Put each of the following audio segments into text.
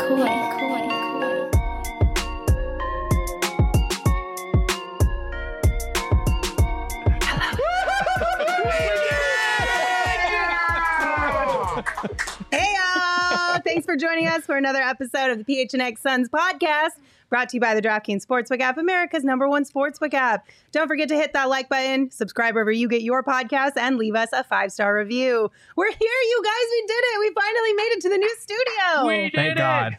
Hey y'all! Thanks for joining us for another episode of the PHNX Suns podcast, brought to you by the DraftKings Sportsbook app, America's #1 sportsbook app. Don't forget to hit that like button, subscribe wherever you get your podcasts, and leave us a 5-star review. We're here, you guys. We did it. We finally made it to the new studio. We did Thank it. God.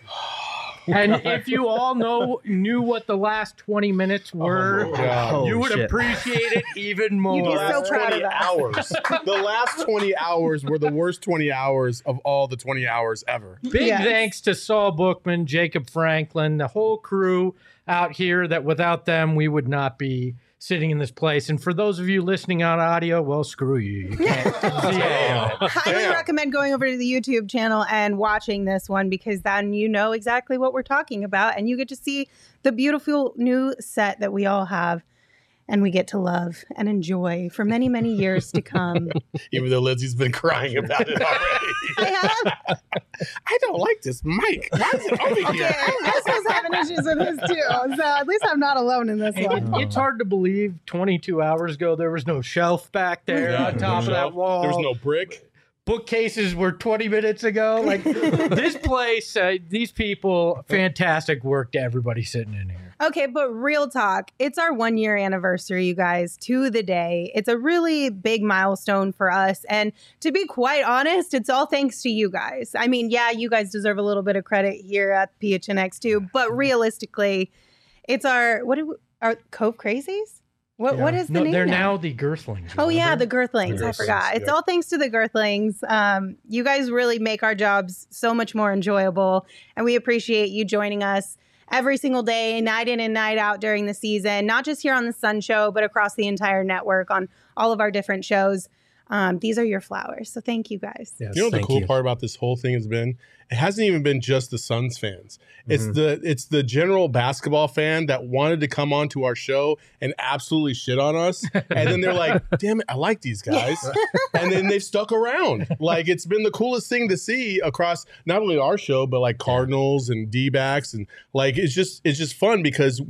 And if you all knew what the last 20 minutes were, you would appreciate it even more. You'd be so last proud 20 of us. hours. The last 20 hours were the worst 20 hours of all the 20 hours ever. Big Yes. thanks to Saul Bookman, Jacob Franklin, the whole crew out here that without them, we would not be sitting in this place. And for those of you listening on audio, well, screw you. You can't see it. Highly recommend going over to the YouTube channel and watching this one, because then you know exactly what we're talking about and you get to see the beautiful new set that we all have and we get to love and enjoy for many, many years to come. Even though Lindsay's been crying about it already. I have. I don't like this mic. Why is it over Okay, here? Crystal's having issues with this too, so at least I'm not alone in this one. It's hard to believe 22 hours ago there was no shelf back there on top of that wall. There was no brick. Bookcases were 20 minutes ago. Like this place, these people, fantastic work to everybody sitting in here. Okay, but real talk, it's our 1-year anniversary, you guys, to the day. It's a really big milestone for us. And to be quite honest, it's all thanks to you guys. I mean, yeah, you guys deserve a little bit of credit here at PHNX too, but realistically, it's our Cove Crazies? What is the name? They're now? now the Girthlings. Oh, yeah, remember? the Girthlings. I forgot. It's yeah. all thanks to the Girthlings. You guys really make our jobs so much more enjoyable, and we appreciate you joining us every single day, night in and night out during the season, not just here on the Sun Show, but across the entire network on all of our different shows. These are your flowers, so thank you guys. Yes, You know what the thank cool you. part about this whole thing has been? It hasn't even been just the Suns fans. It's the general basketball fan that wanted to come onto our show and absolutely shit on us. And then they're like, damn it, I like these guys. And then they've stuck around. Like, it's been the coolest thing to see across not only our show, but like Cardinals and D-backs. And like, it's just fun because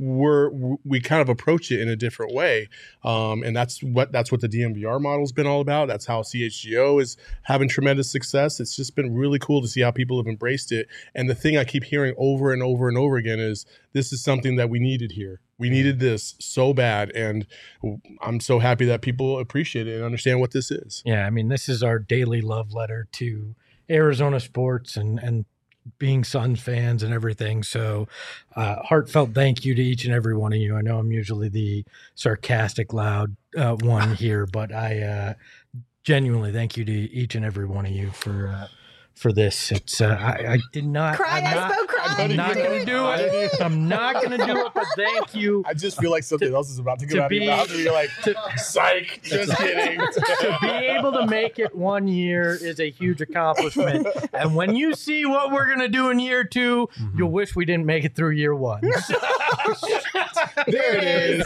we kind of approach it in a different way. And that's what the DMVR model's been all about. That's how CHGO is having tremendous success. It's just been really cool to see how people have embraced it. And the thing I keep hearing over and over and over again is this is something that we needed here. We needed this so bad. And I'm so happy that people appreciate it and understand what this is. Yeah, I mean, this is our daily love letter to Arizona sports and being Suns fans and everything. So heartfelt thank you to each and every one of you. I know I'm usually the sarcastic, loud one here, but I genuinely thank you to each and every one of you for this. It's I did not Cry, I spoke crying. I'm not going to do it. I'm not going to do it, but thank you. I just feel like something else is about to come to out of your be- mouth. And you're like, psych, just kidding. To be able to make it 1 year is a huge accomplishment. And when you see what we're going to do in year 2, you'll wish we didn't make it through year 1. There it is.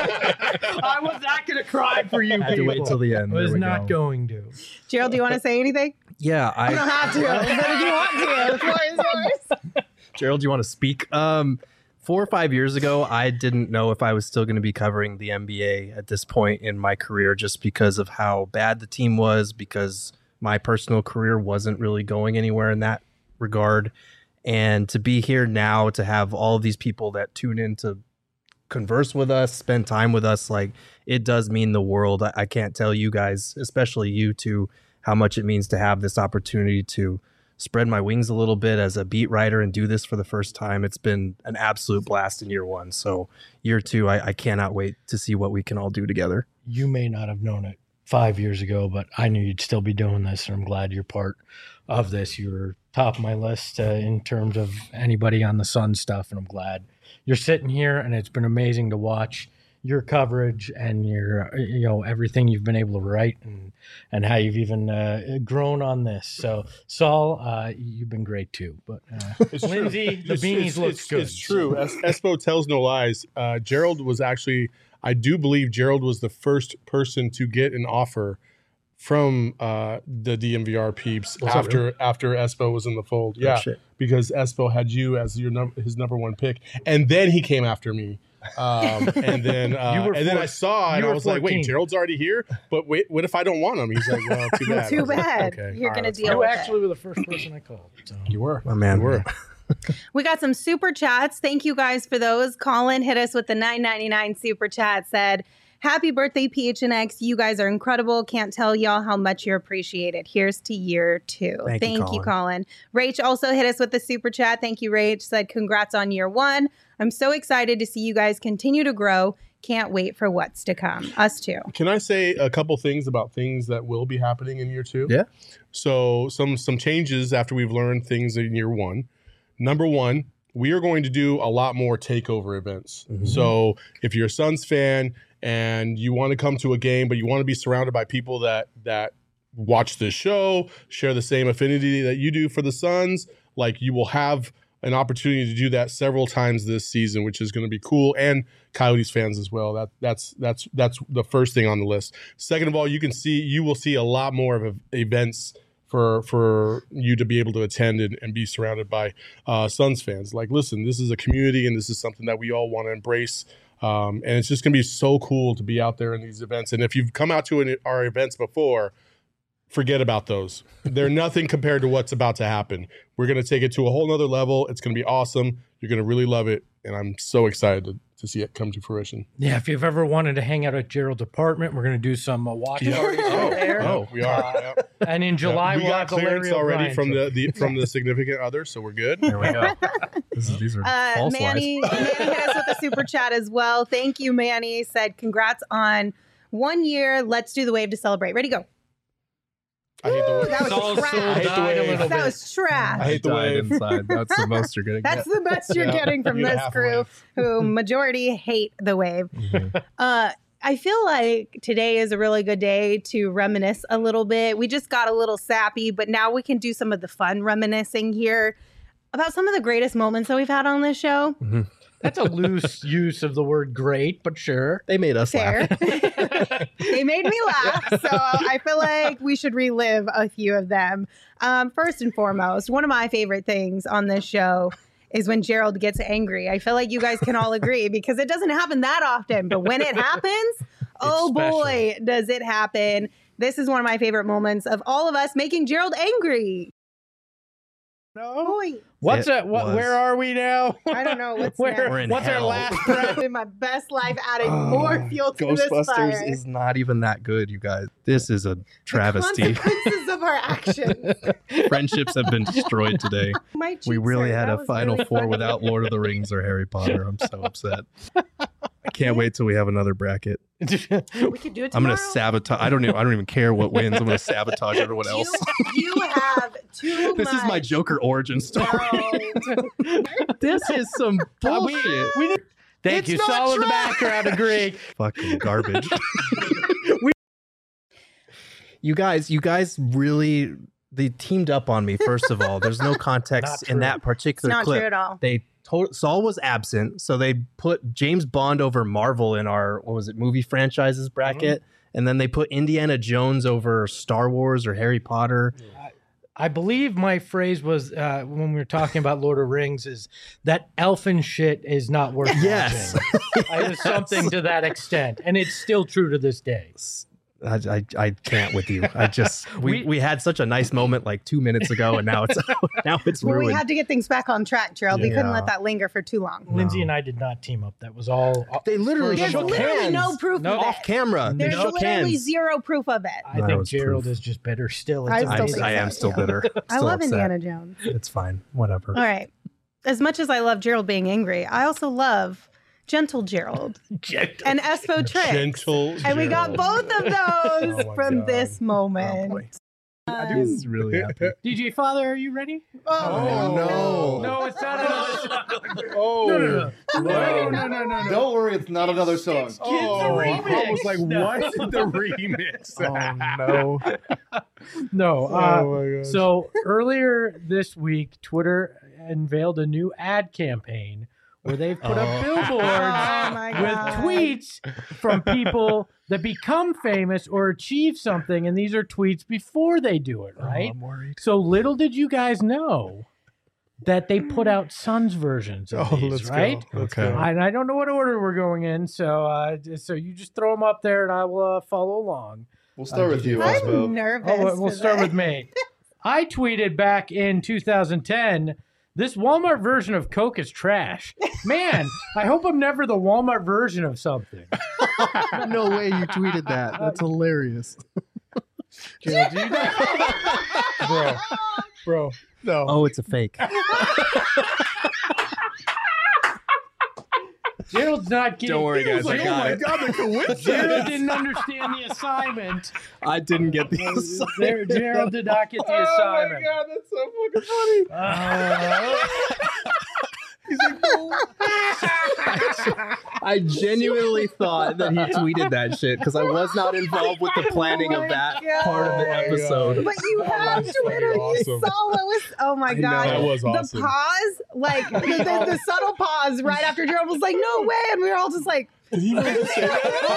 I was not going to cry for you I had to people. wait till the end. I was There we not go. going to. Gerald, do you want to say anything? Yeah, You don't have to, but if you want to, the floor is yours. Gerald, do you want to speak? 4 or 5 years ago, I didn't know if I was still going to be covering the NBA at this point in my career, just because of how bad the team was, because my personal career wasn't really going anywhere in that regard. And to be here now, to have all of these people that tune in to converse with us, spend time with us, like, it does mean the world. I can't tell you guys, especially you two, how much it means to have this opportunity to spread my wings a little bit as a beat writer and do this for the first time. It's been an absolute blast in year 1. So year 2, I cannot wait to see what we can all do together. You may not have known it 5 years ago, but I knew you'd still be doing this, and I'm glad you're part of this. You were top of my list in terms of anybody on the Sun stuff, and I'm glad you're sitting here, and it's been amazing to watch your coverage and your, everything you've been able to write and how you've even grown on this. So, Saul, you've been great too. But Lindsay, the beanies look good. It's true. Espo tells no lies. Gerald was actually, I do believe Gerald was the first person to get an offer from the DMVR peeps after Espo was in the fold. Yeah, shit. because Espo had you as his number one pick, and then he came after me. And then I saw and I was like, wait, Gerald's already here, but wait, what if I don't want him? He's like, well, too bad. Too bad. Okay, You're gonna deal You with actually it. were the first person I called. So. You were, My man. You were. We got some super chats. Thank you guys for those. Colin hit us with the $9.99 super chat. Said, "Happy birthday, PHNX. You guys are incredible. Can't tell y'all how much you're appreciated. Here's to year 2." Thank you, Colin. Rach also hit us with the super chat. Thank you, Rach. Said, "Congrats on year 1. I'm so excited to see you guys continue to grow. Can't wait for what's to come." Us too. Can I say a couple things about things that will be happening in year 2? Yeah. So some changes after we've learned things in year 1. Number 1, we are going to do a lot more takeover events. Mm-hmm. So if you're a Suns fan and you want to come to a game, but you want to be surrounded by people that watch this show, share the same affinity that you do for the Suns, like you will have an opportunity to do that several times this season, which is going to be cool, and Coyotes fans as well. That's the first thing on the list. Second of all, you will see a lot more of events for you to be able to attend and be surrounded by Suns fans. Like, listen, this is a community, and this is something that we all want to embrace. And it's just going to be so cool to be out there in these events. And if you've come out to our events before, forget about those. They're nothing compared to what's about to happen. We're going to take it to a whole nother level. It's going to be awesome. You're going to really love it. And I'm so excited to see it come to fruition. Yeah, if you've ever wanted to hang out at Gerald's apartment, we're going to do some watch parties out there. Oh, we are. And in July, we we'll got have the clearance Larry already O'Brien from the significant other, so we're good. There we go. These are false Manny hit us with a super chat as well. Thank you, Manny. Said, "Congrats on 1 year. Let's do the wave to celebrate." Ready, go. I hate the Woo, wave. that was Soul trash. I hate the died a wave. little That bit. was trash. I hate the wave. inside. That's the most you're gonna That's get. the best you're getting from You this half a crew, wave. who majority hate the wave. Mhm. I feel like today is a really good day to reminisce a little bit. We just got a little sappy, but now we can do some of the fun reminiscing here about some of the greatest moments that we've had on this show. That's a loose use of the word great, but sure. They made us Fair. laugh. They made me laugh, so I feel like we should relive a few of them. First and foremost, one of my favorite things on this show is when Gerald gets angry. I feel like you guys can all agree because it doesn't happen that often, but when it happens, oh boy, does it happen. This is one of my favorite moments of all of us making Gerald angry. No. Boy, What's It that? was. Where are we now? I don't know what's We're next. in What's our hell. last breath? In my best life, adding more fuel to this fire. Ghostbusters is not even that good, you guys. This is a The travesty. consequences of our actions. Friendships have been destroyed today. My We cheeks really hurt. had That a was Final really Four funny. without Lord of the Rings or Harry Potter. I'm so upset. I can't wait till we have another bracket. We could do it tomorrow. I'm gonna sabotage. I don't even care what wins. I'm gonna sabotage everyone else. You have too This much. is my Joker origin story. No. This is some bullshit. Thank It's you. not Solid the trash. background agree. Fucking garbage. You guys really they teamed up on me. First of all, there's no Not context in true. that It's particular not clip. true at all. Saul was absent, so they put James Bond over Marvel in our movie franchises bracket, and then they put Indiana Jones over Star Wars or Harry Potter. I believe my phrase was when we were talking about Lord of Rings is that elfin shit is not worth Yes. watching. It was something to that extent, and it's still true to this day. I can't with you. I just we had such a nice moment like 2 minutes ago, and now it's Well, ruined. we had to get things back on track, Gerald. We couldn't Yeah. let that linger for too long. Lindsay and I did not team up. That was all. They literally There's shook literally hands. no proof No. of it. Off camera. They There's shook literally hands. zero proof of it. I That think was Gerald proof. is just bitter still. I It's still amazing. think I am so, still yeah. bitter. I Still love upset. Indiana Jones. It's fine. Whatever. All right. As much as I love Gerald being angry, I also love Gentle Gerald and Espo Tricks. Gentle. And we got Gerald. both of those Oh my from God. this moment. boy. He's really happy. DJ Father, are you ready? Oh, no. No, it's not another. Oh. No. Don't worry, it's not another song. Oh, It's a remix. I was like, what is the remix? no. No. Oh my gosh. So earlier this week, Twitter unveiled a new ad campaign where they've put up billboards my with God. tweets from people that become famous or achieve something, and these are tweets before they do it, right? I'm worried. So little did you guys know that they put out Suns versions of these, let's right? go. Let's Okay. go. I don't know what order we're going in, so you just throw them up there, and I will follow along. We'll start with you, I'm Osmo. nervous. Oh, we'll start today. with me. I tweeted back in 2010, this Walmart version of Coke is trash. Man, I hope I'm never the Walmart version of something. No way you tweeted that. That's hilarious. Jill, do you know? Bro, no. Oh, it's a fake. Gerald's not getting. Don't worry, guys. I got it. God, the coincidence. Gerald didn't understand the assignment. I didn't get the assignment. Gerald did not get the Oh my assignment. God, that's so fucking funny. I genuinely thought that he tweeted that shit because I was not involved with the planning of that part of the episode. But you have That's Twitter. fucking awesome. You saw what was. Oh my I God. know. That was awesome. The pause, like the subtle pause right after Gerald was like, no way. And we were all just like, Did he really say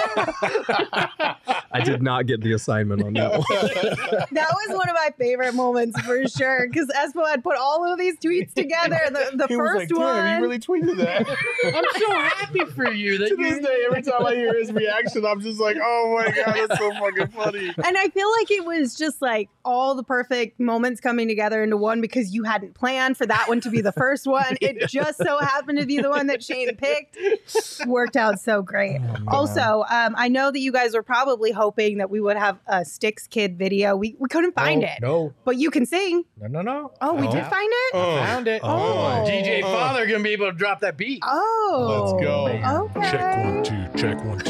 that? I did not get the assignment on that one. that was one of my favorite moments for sure. Because Espo had put all of these tweets together. The He was first like, one. damn, he really tweeted that. I'm so happy for you that To this you. day, every time I hear his reaction, I'm just like, oh my God, that's so fucking funny. And I feel like it was just like all the perfect moments coming together into one because you hadn't planned for that one to be the first one. It just so happened to be the one that Shane picked. Worked out so great. Also, I know that you guys were probably hoping that we would have a Styx Kid video. We couldn't find it, No, but you can sing. no. Oh, we Oh. did find it? Found it. Oh. DJ Father gonna be able to drop that beat. Oh. Let's go. Okay. Check 1 2, check 1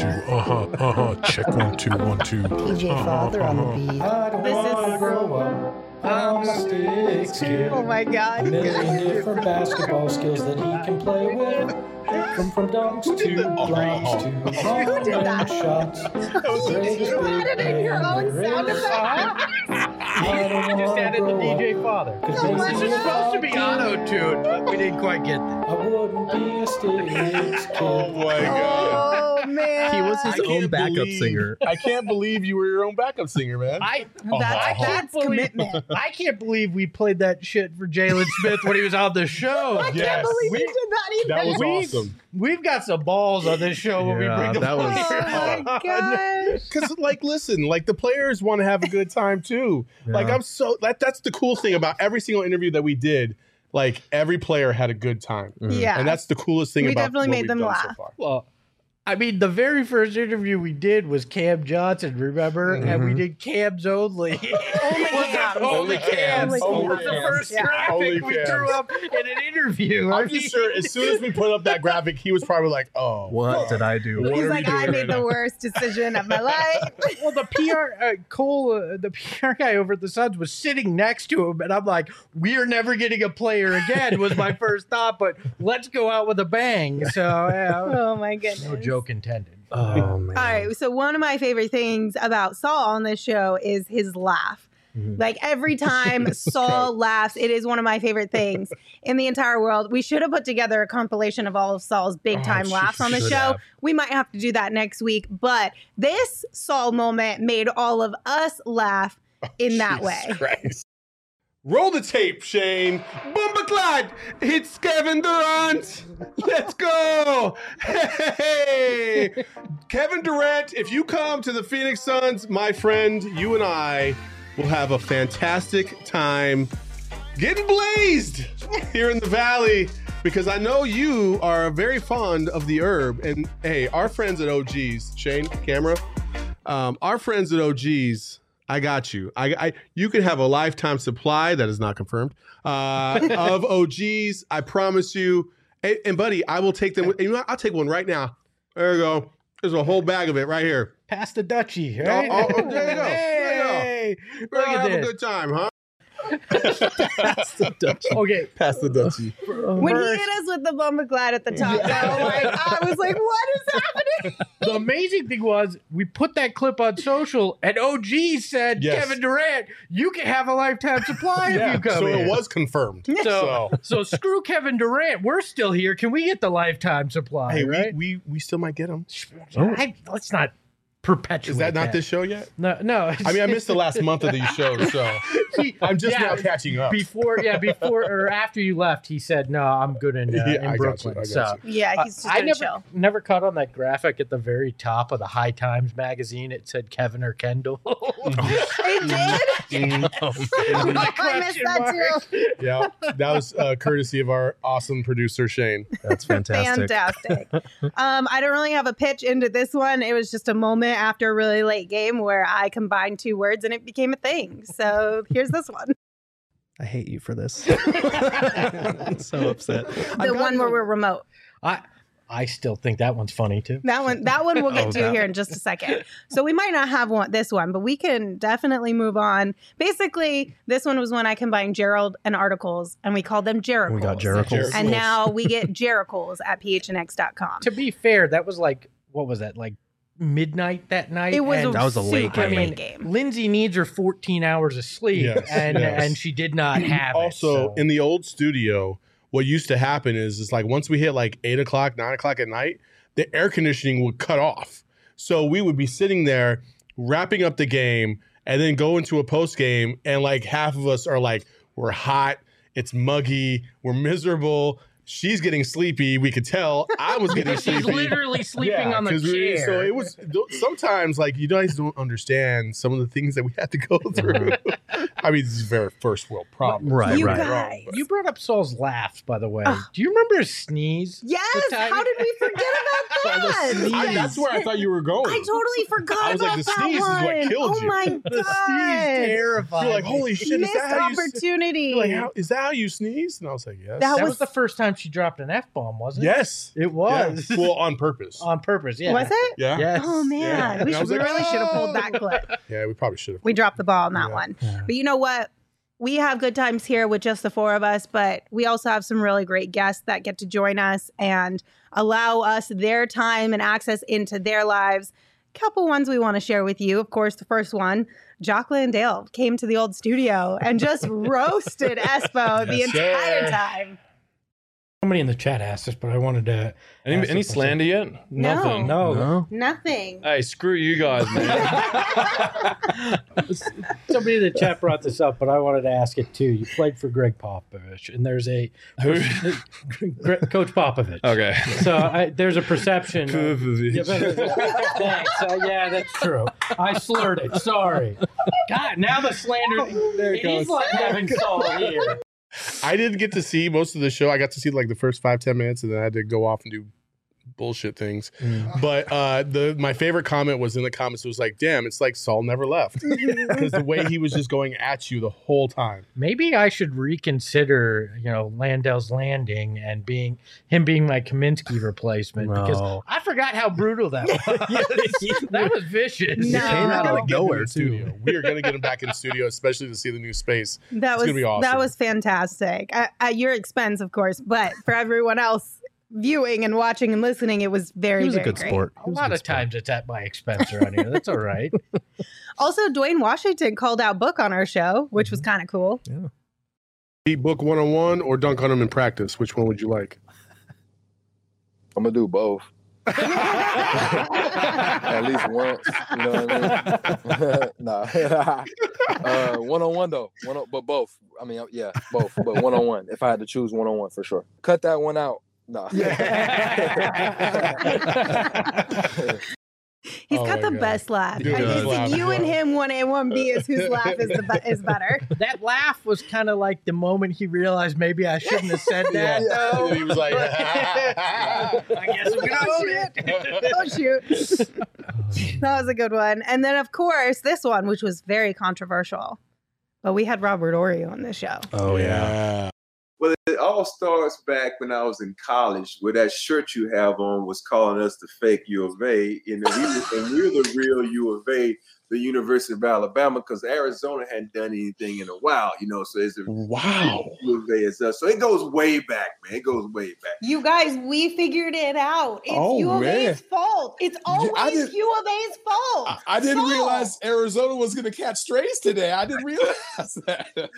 2. Check 1 2 1 2. PJ Father on the beat. I don't This wanna is- grow up. I'm a Styx kid. Oh my God. A million different basketball skills that he can play with. From dunks to blanks to Who did that? shots. You added in your own sound effect. I don't just added the DJ Father. Because this is supposed to be auto-tuned, but we didn't quite get that. I wouldn't be a Styx kid. Oh my God. Oh man. He was I his can't own backup believe- singer. I can't believe you were your own backup singer, man. That's commitment. I can't believe we played that shit for Jalen Smith when he was on the show. I can't Yes. believe you did that either. That was We've- awesome. We've got some balls on this show when we Yeah, bring the that was- players Oh my on. gosh. Because, like, listen, like the players want to have a good time too. Like, Yeah. I'm so that's the cool thing about every single interview that we did. Like, every player had a good time, Yeah. and that's the coolest thing We about definitely what made we've them done so laugh. far. Well, I mean, the very first interview we did was Cam Johnson, remember? And we did Cams only. Only Cams. Only Cams. Only was the Cams. first Yeah. graphic Only we Cams. threw up in an interview. I'm just sure as soon as we put up that graphic, he was probably like, "Oh, What did I do? What He's are we like, doing I right made the now?" worst decision of my life. Well, the PR, Cole, the PR guy over at the Suns was sitting next to him, and I'm like, "We're never getting a player again." Was my first thought, but let's go out with a bang. So, yeah, Oh my goodness. no joke intended. Oh man. All right. So one of my favorite things about Saul on this show is his laugh. Like every time Saul laughs, it is one of my favorite things in the entire world. We should have put together a compilation of all of Saul's big time laughs on the should show. have. We might have to do that next week. But this Saul moment made all of us laugh in that way. Jesus Christ. Roll the tape, Shane. Bombaclad! It's Kevin Durant. Let's go. Hey, Kevin Durant, if you come to the Phoenix Suns, my friend, you and I will have a fantastic time getting blazed here in the Valley because I know you are very fond of the herb. And hey, our friends at OGs, Shane, camera, our friends at OGs, I got you. You can have a lifetime supply that is not confirmed of OGs. I promise you. And buddy, I will take them. You know what? I'll take one right now. There you go. There's a whole bag of it right here. Pass the Dutchie, right? Oh, there you go. There you go. Hey, We're look gonna at have a this. good time, huh? Okay, Pass the Dutchie. When he hit us with the Bumba Glad at the top, though, like, I was like, what is happening? the amazing thing was we put that clip on social, and OG said, Yes. Kevin Durant, you can have a lifetime supply if you come so here. it was confirmed. So screw Kevin Durant. We're still here. Can we get the lifetime supply? Hey, right? we still might get them. Let's not perpetuate. Is that not this show yet? No. I mean, I missed the last month of these shows, so I'm just now catching up. Before or after you left, he said, "No, I'm good in I got Brooklyn." you, I got So Yeah, he's just I gonna chill. never caught on that graphic at the very top of the High Times magazine. It said Kevin or Kendall. It did? I missed that too. Yeah, that was courtesy of our awesome producer Shane. That's fantastic. Fantastic. I don't really have a pitch into this one. It was just a moment after a really late game where I combined two words and it became a thing. So here's this one. I hate you for this. I'm so upset. The one where we're remote. I still think that one's funny too. That one we'll get to here in just a second. So we might not have this one, but we can definitely move on. Basically, this one was when I combined Gerald and articles, and we called them Jericles. We got Jericles. And now we get Jericles at phnx.com. To be fair, that was like, what was that, like midnight that night? It was And That was a late super game. late game. Lindsay needs her 14 hours of sleep, Yes, and yes. and she did not have Also, it. in the old studio, what used to happen is like once we hit like 8 o'clock, 9 o'clock at night, the air conditioning would cut off. So we would be sitting there wrapping up the game and then go into a post game, and like half of us are like, we're hot, it's muggy, we're miserable. She's getting sleepy. We could tell. I was getting She's sleepy. literally sleeping on the 'cause chair. so it was sometimes like you guys don't understand some of the things that we had to go through. I mean, this is very first world problem. Right, You right. guys. You brought up Saul's laughs, by the way. Ugh. Do you remember his sneeze? Yes. The time- How did we forget about that? That's where I thought you were going. I totally forgot I was like, about the that sneeze is one. what killed Oh you. my The god! sneeze terrified. You're like, me. holy shit! Is Missed that how you? opportunity. You're like, is that how you sneeze? And I was like, yes. That That was- was the first time she dropped an F-bomb, wasn't it? yes. It was. Yeah. Well, on purpose. On purpose, yeah. Was it? Yeah. Yes. Oh man, Yeah. we, And I was like, really should have pulled that clip. Yeah, we probably should have. We dropped the ball on that Yeah. one. But you know what? We have good times here with just the four of us, but we also have some really great guests that get to join us and allow us their time and access into their lives. Couple ones we want to share with you. Of course, the first one, Jocelyn Dale came to the old studio and just roasted Espo the Yes, entire sir. time. Somebody in the chat asked us, but I wanted to. Any slander yet? Nothing. No. Nothing. Hey, screw you guys, man. Somebody in the chat brought this up, but I wanted to ask it too. You played for Greg Popovich, and there's a Who? Coach Popovich. Okay. So there's a perception. Popovich. Thanks. Yeah, that's true. I slurred it. Sorry. God, now the slander. There it He's goes. like having Saul here. I didn't get to see most of the show. I got to see like the first 5-10 minutes, and then I had to go off and do bullshit things. But my favorite comment was in the comments. It was like, "Damn, it's like Saul never left," because the way he was just going at you the whole time. Maybe I should reconsider, Landell's landing and being my Kaminsky replacement because No. I forgot how brutal that was. That was vicious. No. Came out of Get him nowhere in too. studio. We are going to get him back in the studio, especially to see the new space. That It's was gonna be awesome. That was fantastic at your expense, of course. But for everyone else viewing and watching and listening, it was very, He was a very good great. sport. A lot of times it's at my expense around here. That's all right. Also, Dwayne Washington called out Book on our show, which was kind of cool. Beat Book 101 or dunk on him in practice. Which one would you like? I'm gonna do both. At least once, you know what I mean? Nah. One-on-one though. But both. I mean, yeah, both. But one-on-one. If I had to choose one-on-one for sure. Cut that one out. Nah. He's Oh got my the God. best laugh. Dude, I his think laugh you is and well. him, 1A, 1B is whose laugh is better. That laugh was kind of like the moment he realized maybe I shouldn't have said that. Yeah. though. And he was like, I guess I'm gonna own it. Oh, shoot. That was a good one. And then, of course, this one, which was very controversial. But we had Robert Horry on this show. Oh yeah. Well, it all starts back when I was in college, where that shirt you have on was calling us the fake U of A, and we're the real U of A. the University of Alabama because Arizona hadn't done anything in a while, so it's Wow. U of A is us. So it goes way back, man. It goes way back. You guys, we figured it out. It's U of A's fault. It's always U of A's fault. I didn't realize Arizona was going to catch strays today. I didn't realize that.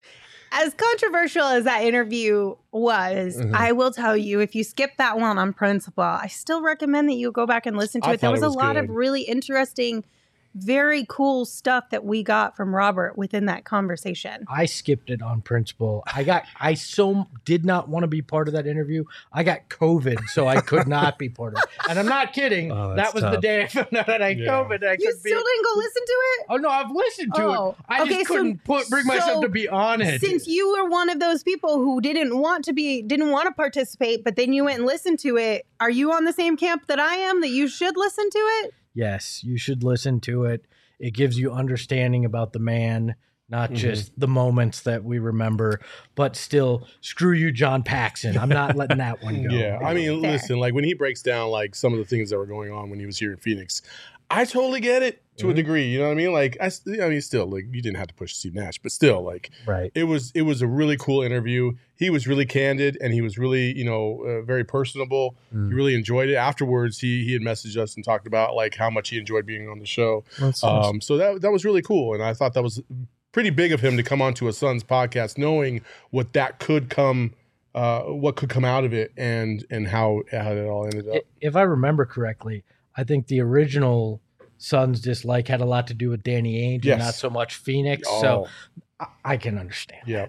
As controversial as that interview was, I will tell you, if you skip that one on principle, I still recommend that you go back and listen to it. There was a lot of really interesting, very cool stuff that we got from Robert within that conversation. I skipped it on principle. I so did not want to be part of that interview. I got COVID, so I could not be part of it. And I'm not kidding. That was the day I found out that I had COVID. You still didn't go listen to it? Oh, no, I've listened to it. I just couldn't bring myself to be on it. Since you were one of those people who didn't want to participate, but then you went and listened to it, are you on the same camp that I am, that you should listen to it? Yes, you should listen to it. It gives you understanding about the man, not just the moments that we remember, but still, screw you, John Paxson. I'm not letting that one go. Yeah, I mean, listen, like when he breaks down like some of the things that were going on when he was here in Phoenix, I totally get it to a degree. You know what I mean? Like, still, like, you didn't have to push Steve Nash, but still, like, it was a really cool interview. He was really candid and he was really, very personable. He really enjoyed it. Afterwards, he had messaged us and talked about like how much he enjoyed being on the show. So that was really cool, and I thought that was pretty big of him to come onto a Suns podcast, knowing what that could come. What could come out of it, and how it all ended up. If I remember correctly, I think the original Suns dislike had a lot to do with Danny Ainge and not so much Phoenix. So I can understand. Yeah,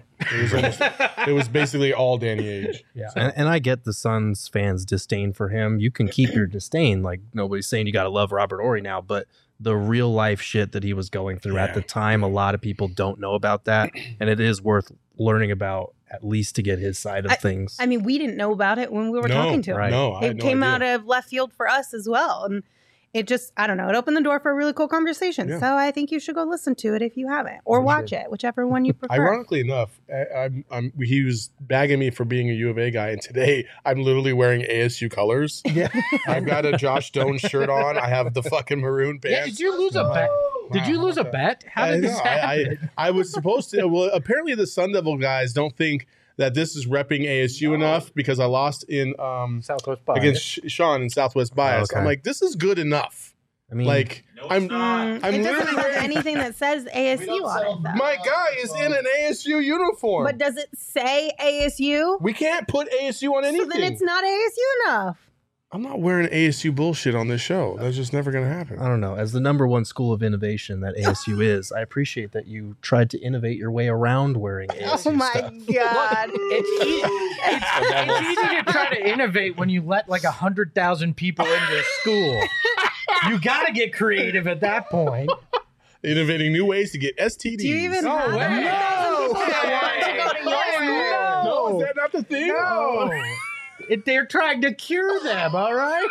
it was basically all Danny Ainge. Yeah, and I get the Suns fans' disdain for him. You can keep your disdain. Like, nobody's saying you got to love Robert Horry now, but the real life shit that he was going through at the time, a lot of people don't know about that, and it is worth learning about, at least to get his side of things. I mean, we didn't know about it when we were talking to him. Right. No, it came out of left field for us as well. And it just, I don't know, it opened the door for a really cool conversation. Yeah. So I think you should go listen to it if you haven't, or watch it, whichever one you prefer. Ironically enough, he was bagging me for being a U of A guy, and today I'm literally wearing ASU colors. Yeah, I've got a Josh Stone shirt on. I have the fucking maroon pants. Yeah, did you lose a bet? Did you lose a bet? How did this happen? I was supposed to. Well, apparently the Sun Devil guys don't think that this is repping ASU enough because I lost in Southwest Bias against Sean in Southwest Bias. I'm like, this is good enough. I mean, like, I'm it doesn't have anything that says ASU on it, though. My guy is in an ASU uniform. But does it say ASU? We can't put ASU on anything. So then it's not ASU enough. I'm not wearing ASU bullshit on this show. That's just never going to happen. I don't know. As the #1 school of innovation that ASU is, I appreciate that you tried to innovate your way around wearing ASU Oh my stuff. God. It's easy to try to innovate when you let like 100,000 people into a school. You got to get creative at that point. Innovating new ways to get STDs. Do you even have way. 100,000 people that want to go to your school? No, is that not the thing? No. They're trying to cure them, all right?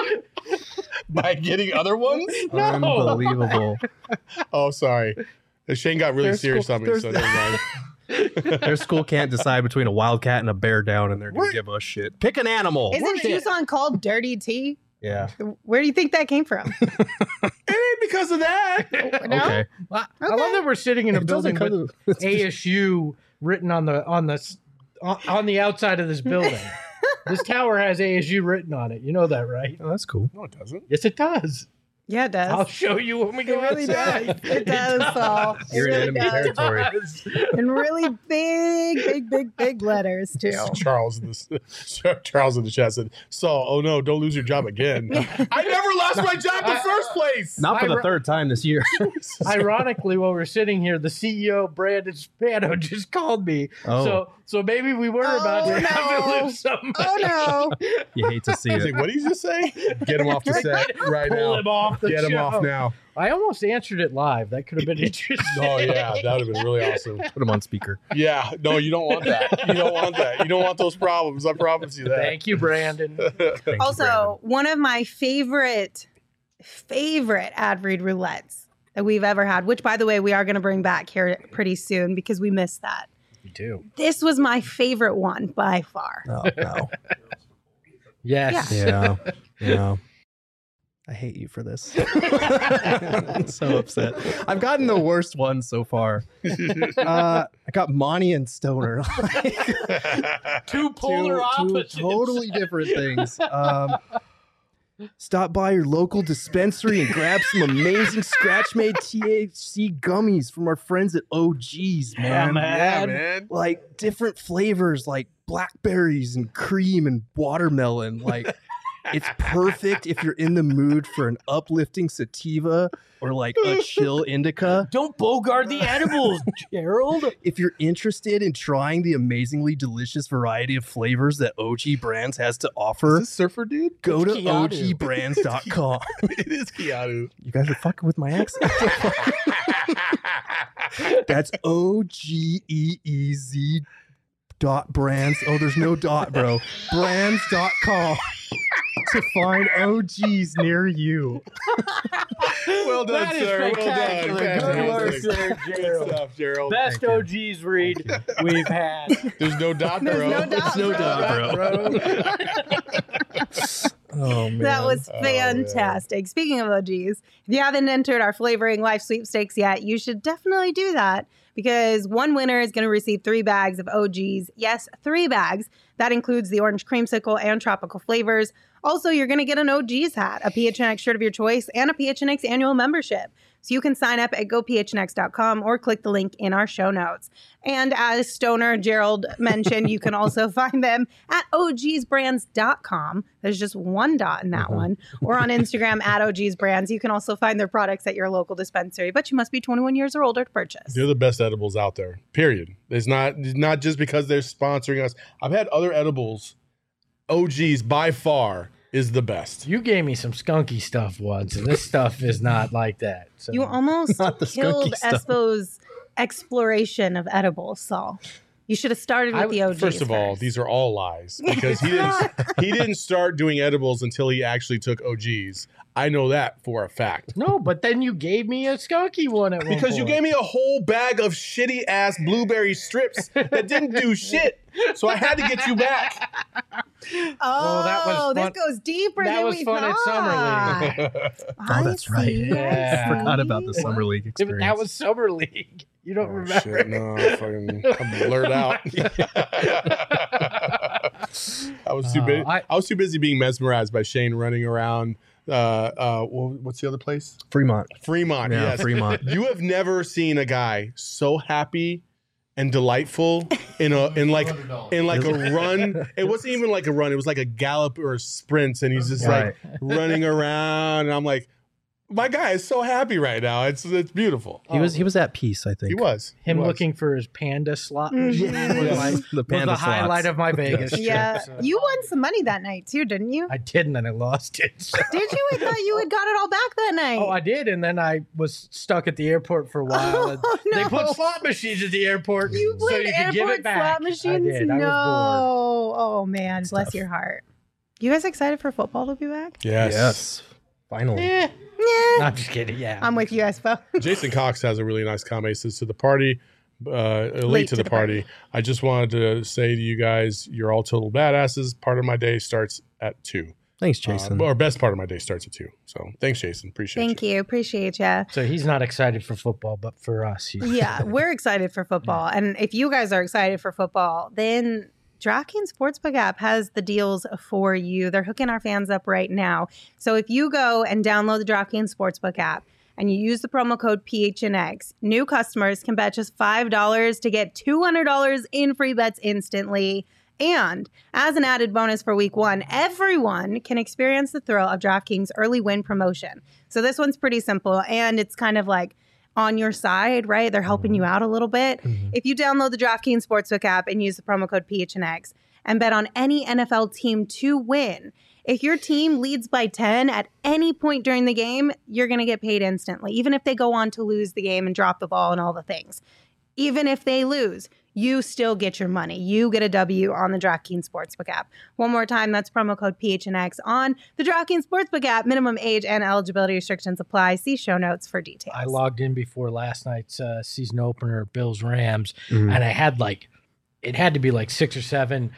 By getting other ones? Unbelievable. Oh, sorry. Shane got really serious on me, so never mind. Their school can't decide between a wildcat and a bear down, and they're going to give us shit. Pick an animal. Isn't Tucson called Dirty Tea? Yeah. Where do you think that came from? It ain't because of that. No? Okay. I love that we're sitting in a building with ASU written on the outside of this building. This tower has ASU written on it. You know that, right? Oh, that's cool. No, it doesn't. Yes, it does. Yeah, it does. I'll show you when we go really outside. does. It does, Saul. You're in enemy territory. In really big letters, too. Charles in the chat said, Saul, oh no, don't lose your job again. I never lost my job in the first place. Not for the third time this year. Ironically, while we're sitting here, the CEO, Brandon Spano, just called me. Oh. So maybe we were about to have to lose somebody. Oh, no. You hate to see I was it. like, what did you just say? Get him off the set right now. Pull him off the Get him show. off now. I almost answered it live. That could have been interesting. Oh, yeah. That would have been really awesome. Put him on speaker. Yeah. No, you don't want that. You don't want that. You don't want those problems. I promise you that. Thank you, Brandon. Also, one of my favorite ad read roulettes that we've ever had, which, by the way, we are going to bring back here pretty soon because we missed that. Me too. This was my favorite one by far. Oh, no. Yes. Yeah. I hate you for this. I'm so upset. I've gotten the worst one so far. I got Monty and Stoner. Two polar opposites. Two totally different things. Stop by your local dispensary and grab some amazing scratch-made THC gummies from our friends at OG's, man. Yeah, man. Like different flavors, like blackberries and cream and watermelon. Like it's perfect if you're in the mood for an uplifting sativa or like a chill indica. Don't bogart the edibles, Gerald. If you're interested in trying the amazingly delicious variety of flavors that OG Brands has to offer, Is this Surfer Dude? go to Keanu. ogbrands.com. It is Keanu. You guys are fucking with my accent. That's OGEEZ .brands. Oh, there's no dot, bro. Brands.com to find OGs near you. Well done, That is sir. Well spectacular. done. Good work, Fantastic. there, Good Gerald. stuff, Gerald. Best OGs read we've had. There's no dot, bro. There's no dot, There's no bro. dot, Oh, man. That was Oh, fantastic. Speaking of OGs, if you haven't entered our Flavoring Life sweepstakes yet, you should definitely do that because one winner is going to receive 3 bags of OGs. Yes, 3 bags. That includes the orange creamsicle and tropical flavors. Also, you're going to get an OGs hat, a PHNX shirt of your choice, and a PHNX annual membership. So you can sign up at gophnx.com or click the link in our show notes. And as Stoner Gerald mentioned, you can also find them at ogsbrands.com. There's just one dot in that one. Or on Instagram at ogsbrands. You can also find their products at your local dispensary, but you must be 21 years or older to purchase. They're the best edibles out there. Period. It's not just because they're sponsoring us. I've had other edibles. OG's by far is the best. You gave me some skunky stuff once, and this stuff is not like that. So. You almost Not the killed skunky stuff. Espo's exploration of edibles, Saul. You should have started with the OGs. First of all, these are all lies because he didn't start doing edibles until he actually took OGs. I know that for a fact. No, but then you gave me a skunky one at one Because you point. gave me a whole bag of shitty ass blueberry strips that didn't do shit. So I had to get you back. Oh, that was this fun. goes deeper That than was we fun at thought. Summer League. Oh, that's right. Yeah. I forgot about the Summer League experience. That was Summer League. You don't remember? Shit, no, I'm blurred out. I was too busy. I was too busy being mesmerized by Shane running around. What's the other place? Fremont. Fremont. Yeah, Yes, Fremont. You have never seen a guy so happy and delightful in like a run. It wasn't even like a run. It was like a gallop or a sprint, and he's just like running around. And I'm like, my guy is so happy right now. It's beautiful. He was at peace, I think. He was. Him He was. looking for his panda slot Mhm. machine was, like, The was panda the highlight slots. of my Vegas trip. Yeah, So. you won some money that night too, didn't you? I didn't, and I lost it. So. Did you? I thought you had got it all back that night. Oh, I did, and then I was stuck at the airport for a while. And Oh, no. They put slot machines at the airport You so played you could give airport it back. slot machines? I did. No. I was Oh man, That's bless tough. your heart. You guys excited for football to be back? Yes. Finally. bored. Eh, Yeah. no, I'm just kidding. Yeah, I'm with you, Espo. Jason Cox has a really nice comment. He says to the party, late to the party. I just wanted to say to you guys, you're all total badasses. Part of my day starts at 2. Thanks, Jason. Or best part of my day starts at 2. So thanks, Jason. Appreciate Thank you. Appreciate you. So he's not excited for football, but for us, he's Yeah, we're excited for football. And if you guys are excited for football, then DraftKings Sportsbook app has the deals for you. They're hooking our fans up right now. So if you go and download the DraftKings Sportsbook app and you use the promo code PHNX, new customers can bet just $5 to get $200 in free bets instantly. And as an added bonus for week 1, everyone can experience the thrill of DraftKings early win promotion. So this one's pretty simple, and it's kind of like on your side, right? They're helping you out a little bit. If you download the DraftKings Sportsbook app and use the promo code PHNX and bet on any NFL team to win, if your team leads by 10 at any point during the game, you're going to get paid instantly, even if they go on to lose the game and drop the ball and all the things. Even if they lose, you still get your money. You get a W on the DraftKings Sportsbook app. One more time, that's promo code PHNX on the DraftKings Sportsbook app. Minimum age and eligibility restrictions apply. See show notes for details. I logged in before last night's season opener, Bills Rams, Mhm. and I had it had to be like 6 or 7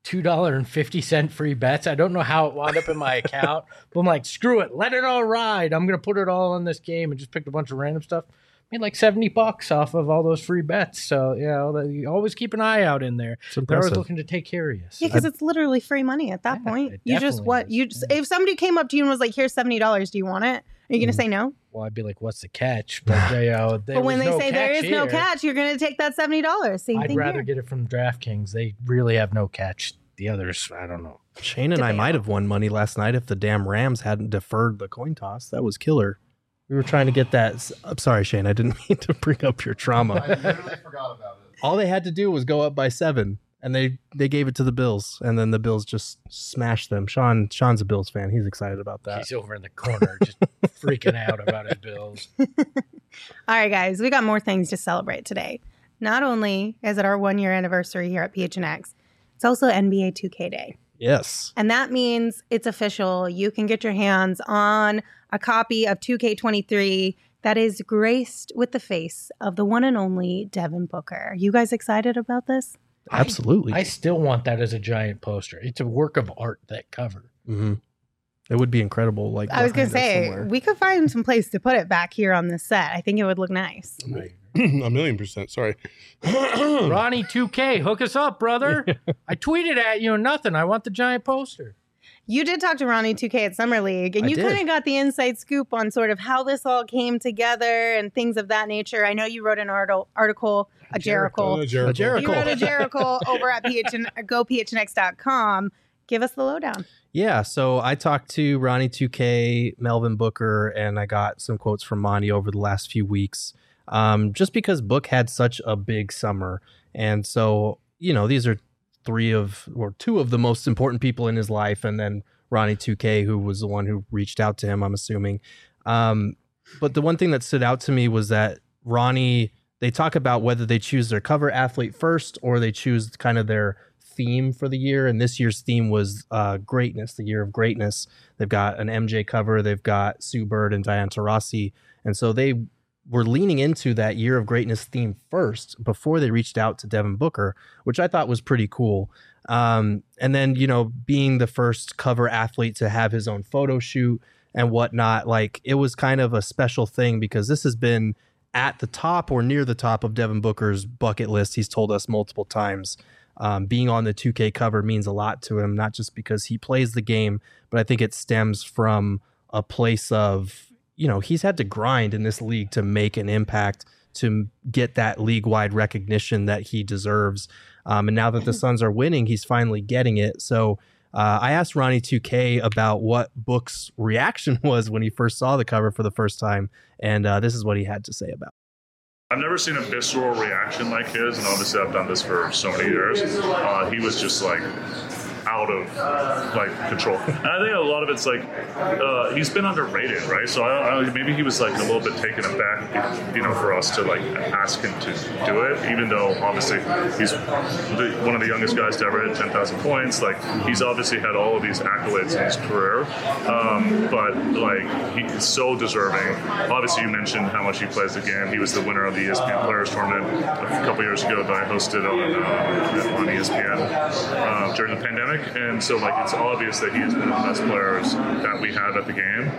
$2.50 free bets. I don't know how it wound up in my account, but I'm like, screw it, let it all ride. I'm gonna put it all on this game, and just picked a bunch of random stuff. Made like $70 off of all those free bets. So you always keep an eye out in there. They're always looking to take care of you. So Yeah, because it's literally free money at that point. You just if somebody came up to you and was like, "Here's $70, do you want it?" Are you gonna say no? Well, I'd be like, "What's the catch?" But but when they say there is no catch, you're gonna take that $70. Same I'd thing rather here. get it from DraftKings. They really have no catch. The others, I don't know. Shane and I might have won money last night if the damn Rams hadn't deferred the coin toss. That was killer. We were trying to get that. I'm sorry, Shane. I didn't mean to bring up your trauma. I literally forgot about it. All they had to do was go up by 7, and they gave it to the Bills, and then the Bills just smashed them. Sean's a Bills fan. He's excited about that. He's over in the corner just freaking out about his Bills. All right, guys, we got more things to celebrate today. Not only is it our 1-year anniversary here at PHNX, it's also NBA 2K Day. Yes. And that means it's official. You can get your hands on a copy of 2K23 that is graced with the face of the one and only Devin Booker. Are you guys excited about this? Absolutely. I still want that as a giant poster. It's a work of art, that cover. Mm-hmm. It would be incrable. Like I was going to behind us say, somewhere. we could find some place to put it back here on this set. I think it would look nice. $1,000,000%. Sorry. Ronnie 2K, hook us up, brother. I tweeted at you and nothing. I want the giant poster. You did talk to Ronnie 2K at Summer League, and I you did. kind of got the inside scoop on sort of how this all came together and things of that nature. I know you wrote an article, a Jericho. You wrote a Jericho over at GoPHNX.com. Give us the lowdown. Yeah, so I talked to Ronnie 2K, Melvin Booker, and I got some quotes from Monty over the last few weeks. Just because Book had such a big summer. And so, these are two of the most important people in his life. And then Ronnie 2K, who was the one who reached out to him, I'm assuming. But the one thing that stood out to me was that Ronnie, they talk about whether they choose their cover athlete first or they choose kind of their theme for the year. And this year's theme was greatness, the year of greatness. They've got an MJ cover. They've got Sue Bird and Diana Taurasi. And so they were leaning into that year of greatness theme first before they reached out to Devin Booker, which I thought was pretty cool. And then, being the first cover athlete to have his own photo shoot and whatnot, like it was kind of a special thing because this has been at the top or near the top of Devin Booker's bucket list. He's told us multiple times. Being on the 2K cover means a lot to him, not just because he plays the game, but I think it stems from a place of, he's had to grind in this league to make an impact, to get that league-wide recognition that he deserves. And now that the Suns are winning, he's finally getting it. So I asked Ronnie 2K about what Book's reaction was when he first saw the cover for the first time, and this is what he had to say about it. I've never seen a visceral reaction like his, and obviously I've done this for so many years. He was just like out of control, and I think a lot of it's he's been underrated, right? So maybe he was like a little bit taken aback, for us to ask him to do it, even though obviously he's one of the youngest guys to ever hit 10,000 points. He's obviously had all of these accolades in his career, but he's so deserving. Obviously, you mentioned how much he plays the game. He was the winner of the ESPN Players Tournament a couple years ago that I hosted on ESPN during the pandemic. And so, it's obvious that he is one of the best players that we have at the game.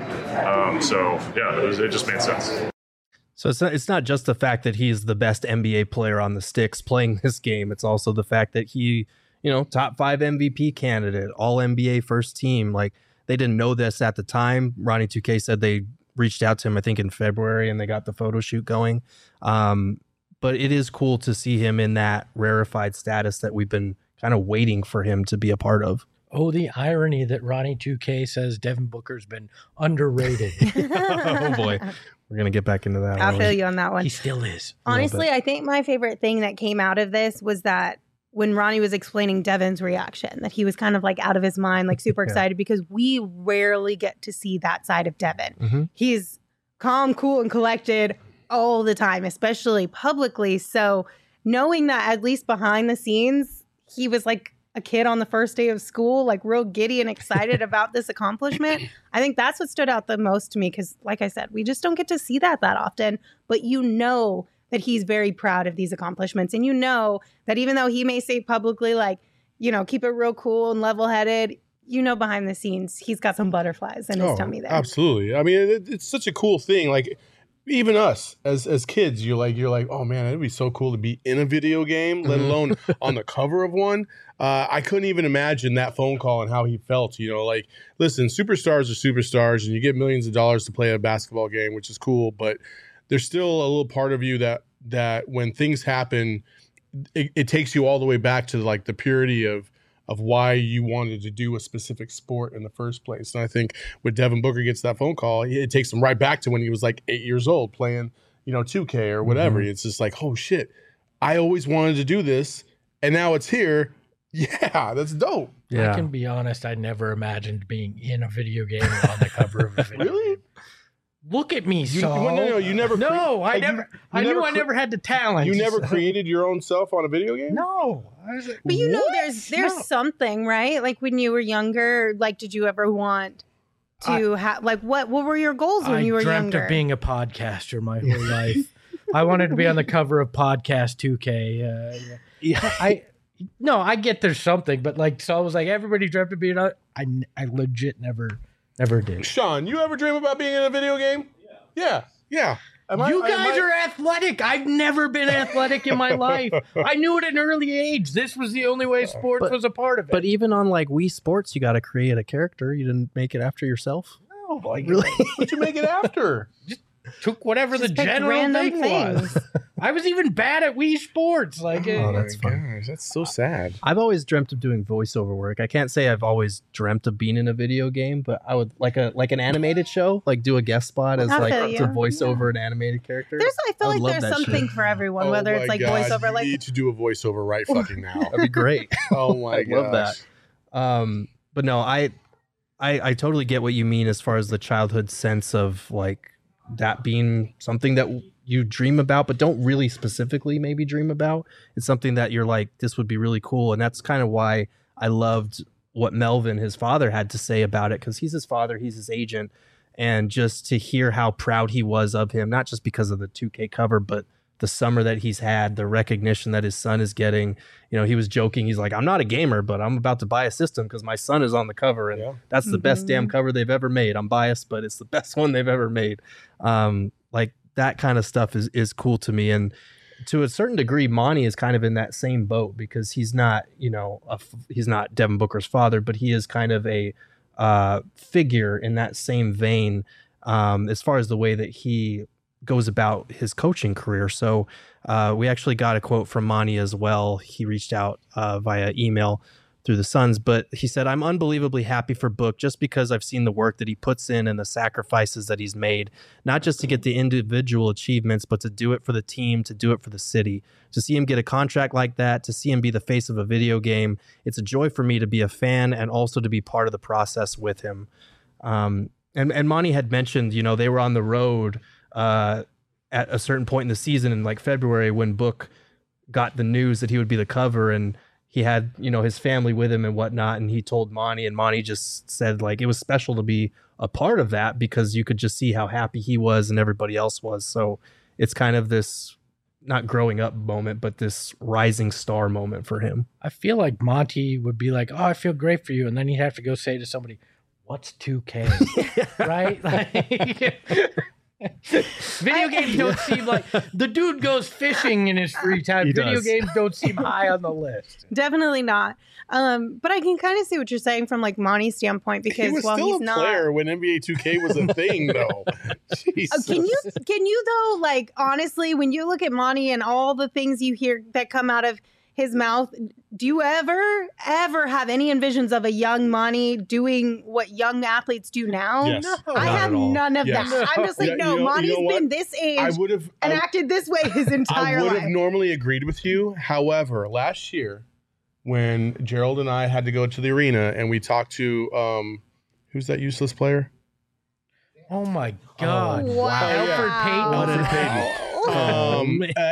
It just made sense. So it's not just the fact that he's the best NBA player on the sticks playing this game. It's also the fact that he, top 5 MVP candidate, all NBA first team. They didn't know this at the time. Ronnie 2K said they reached out to him, I think, in February, and they got the photo shoot going. But it is cool to see him in that rarefied status that we've been kind of waiting for him to be a part of. Oh, the irony that Ronnie 2K says Devin Booker's been underrated. Oh, boy. We're going to get back into that. I'll feel you on that one. He still is. Honestly, I think my favorite thing that came out of this was that when Ronnie was explaining Devin's reaction, that he was kind of out of his mind, super excited, because we rarely get to see that side of Devin. Mm-hmm. He's calm, cool, and collected all the time, especially publicly. So knowing that at least behind the scenes, he was like a kid on the first day of school, real giddy and excited about this accomplishment. I think that's what stood out the most to me because, like I said, we just don't get to see that often. But that he's very proud of these accomplishments. And that even though he may say publicly, keep it real cool and level headed. Behind the scenes, he's got some butterflies in his tummy there. Absolutely. I mean, it's such a cool thing. Like, even us as kids, you're like, oh man, it'd be so cool to be in a video game, let alone on the cover of one. I couldn't even imagine that phone call and how he felt. Like, listen, superstars are superstars, and you get millions of dollars to play a basketball game, which is cool. But there's still a little part of you that when things happen, it takes you all the way back to like the purity of why you wanted to do a specific sport in the first place. And I think when Devin Booker gets that phone call, it takes him right back to when he was like 8 years old playing, 2K or whatever. It's just like, oh shit, I always wanted to do this, and now it's here. Yeah, that's dope. I can be honest, I never imagined being in a video game or on the cover of a video Really? game. Look at me, Saul. No, you never. No, I never. I knew I never had the talent. You never created your own self on a video game? No. I was like, But there's something, right? Like when you were younger, like did you ever want to have like what were your goals when you were younger? I dreamt of being a podcaster my whole life. I wanted to be on the cover of Podcast 2K. I get there's something, but like Saul was like, everybody dreamt of being on. I legit never did. Sean, you ever dream about being in a video game? Yeah. You guys are athletic. I've never been athletic in my life. I knew it at an early age. This was the only way sports was a part of it. But even on like Wii Sports, you got to create a character. You didn't make it after yourself? No, like really? What'd you make it after? Just took whatever the general random thing things. was. I was even bad at Wii Sports. Like, that's fun. Gosh, that's so sad. I've always dreamt of doing voiceover work. I can't say I've always dreamt of being in a video game, but I would like an animated show, like do a guest spot as to voice over an animated character. I feel like there's something for everyone, whether it's like voiceover. You need to do a voiceover right fucking now. That'd be great. Oh my god, love that. But no, I totally get what you mean as far as the childhood sense of like that being something that you dream about, but don't really specifically maybe dream about. It's something that you're like, this would be really cool. And that's kind of why I loved what Melvin, his father, had to say about it, because he's his father, he's his agent. And just to hear how proud he was of him, not just because of the 2K cover, but the summer that he's had, the recognition that his son is getting. He was joking. He's like, I'm not a gamer, but I'm about to buy a system because my son is on the cover. And that's the best damn cover they've ever made. I'm biased, but it's the best one they've ever made. Like that kind of stuff is cool to me. And to a certain degree, Monty is kind of in that same boat because he's not, he's not Devin Booker's father, but he is kind of a figure in that same vein as far as the way that he goes about his coaching career. So we actually got a quote from Monty as well. He reached out via email through the Suns, but he said, I'm unbelievably happy for Book just because I've seen the work that he puts in and the sacrifices that he's made, not just to get the individual achievements, but to do it for the team, to do it for the city. To see him get a contract like that, to see him be the face of a video game, it's a joy for me to be a fan and also to be part of the process with him. And Monty had mentioned, they were on the road at a certain point in the season in like February when Book got the news that he would be the cover, and he had, his family with him and whatnot. And he told Monty, and Monty just said like, it was special to be a part of that because you could just see how happy he was and everybody else was. So it's kind of this not growing up moment, but this rising star moment for him. I feel like Monty would be like, oh, I feel great for you. And then he'd have to go say to somebody, what's 2K? Right? Like, video games don't seem like the dude goes fishing in his free time. Video games don't seem high on the list. Definitely not. But I can kind of see what you're saying from like Monty's standpoint because he was still he's a not player when NBA 2K was a thing, though. Jesus. Can you though, like honestly, when you look at Monty and all the things you hear that come out of his mouth, do you ever have any envisions of a young Monty doing what young athletes do now? Yes. No, I have none of that. I'm just like, Monty's been this age and acted this way his entire life. I would have normally agreed with you. However, last year when Gerald and I had to go to the arena and we talked to who's that useless player? Oh my God! Wow. Alfred Payton.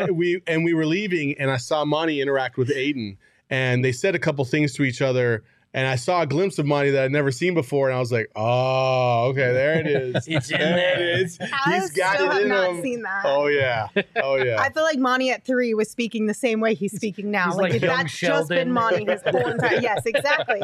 We were leaving and I saw Monty interact with Aiden and they said a couple things to each other and I saw a glimpse of Monty that I'd never seen before, and I was like, "Oh, okay, there it is. It's in there there. it is. I He's got still it have in not him." seen that. Oh yeah, oh yeah. I feel like Monty at 3 was speaking the same way he's speaking now. he's Like, like if young that's just been Sheldon. Monty his whole entire. Yes, exactly.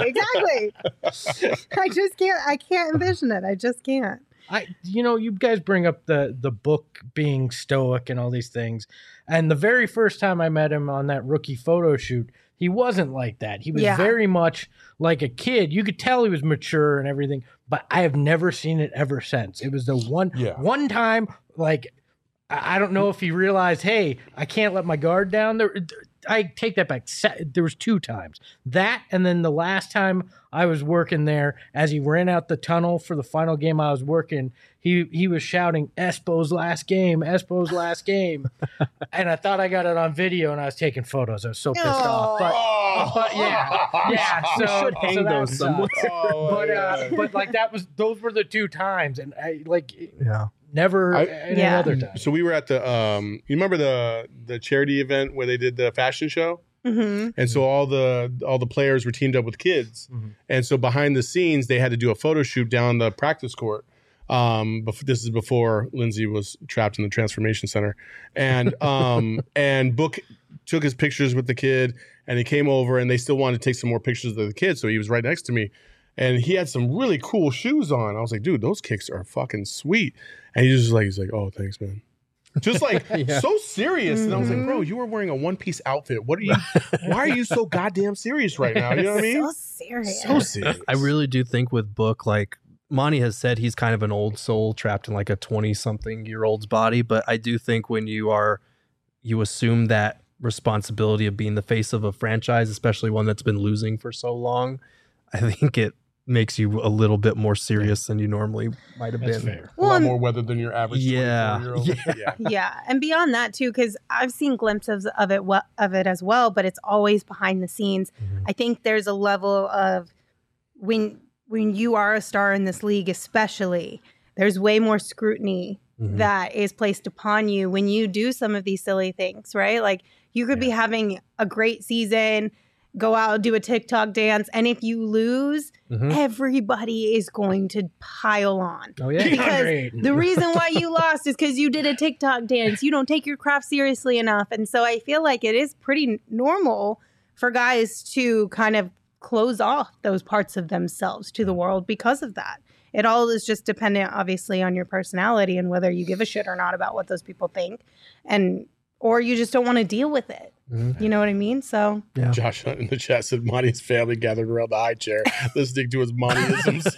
I just can't. I can't envision it. I just can't. You guys bring up the book being stoic and all these things, and the very first time I met him on that rookie photo shoot, he wasn't like that. He was very much like a kid. You could tell he was mature and everything, but I have never seen it ever since. It was the one time, like, I don't know if he realized, hey, I can't let my guard down. I take that back. There was 2 times. That, and then the last time I was working there, as he ran out the tunnel for the final game I was working, he was shouting, "Espo's last game, Espo's last game." And I thought I got it on video, and I was taking photos. I was so pissed off. But yeah. So should hang those somewhere. But like those were the 2 times, and I Yeah. never any other time. So we were at the you remember the charity event where they did the fashion show? Mm-hmm. And so all the players were teamed up with kids. Mm-hmm. And so behind the scenes they had to do a photo shoot down the practice court. This is before Lindsay was trapped in the transformation center. And and Book took his pictures with the kid, and he came over, and they still wanted to take some more pictures of the kid, so he was right next to me. And he had some really cool shoes on. I was like, dude, those kicks are fucking sweet. And he's like, "Oh, thanks, man." Just like so serious. And I was like, bro, you were wearing a one-piece outfit. Why are you so goddamn serious right now? You know what I mean? So serious. So serious. I really do think with Book, like Monty has said, he's kind of an old soul trapped in like a 20-something-year-old's body. But I do think when you assume that responsibility of being the face of a franchise, especially one that's been losing for so long, I think it makes you a little bit more serious than you normally might have been. Fair. A lot more weather than your average 24-year-old. Yeah, and beyond that too, because I've seen glimpses of it as well, but it's always behind the scenes. Mm-hmm. I think there's a level of when you are a star in this league, especially, there's way more scrutiny that is placed upon you when you do some of these silly things, right? Like you could be having a great season, go out, do a TikTok dance, and if you lose, everybody is going to pile on. Oh, yeah. Because the reason why you lost is because you did a TikTok dance. You don't take your craft seriously enough. And so I feel like it is pretty normal for guys to kind of close off those parts of themselves to the world because of that. It all is just dependent, obviously, on your personality and whether you give a shit or not about what those people think. Or you just don't want to deal with it. You know what I mean? So Josh Hunt in the chat said Monty's family gathered around the high chair listening to his Montyisms.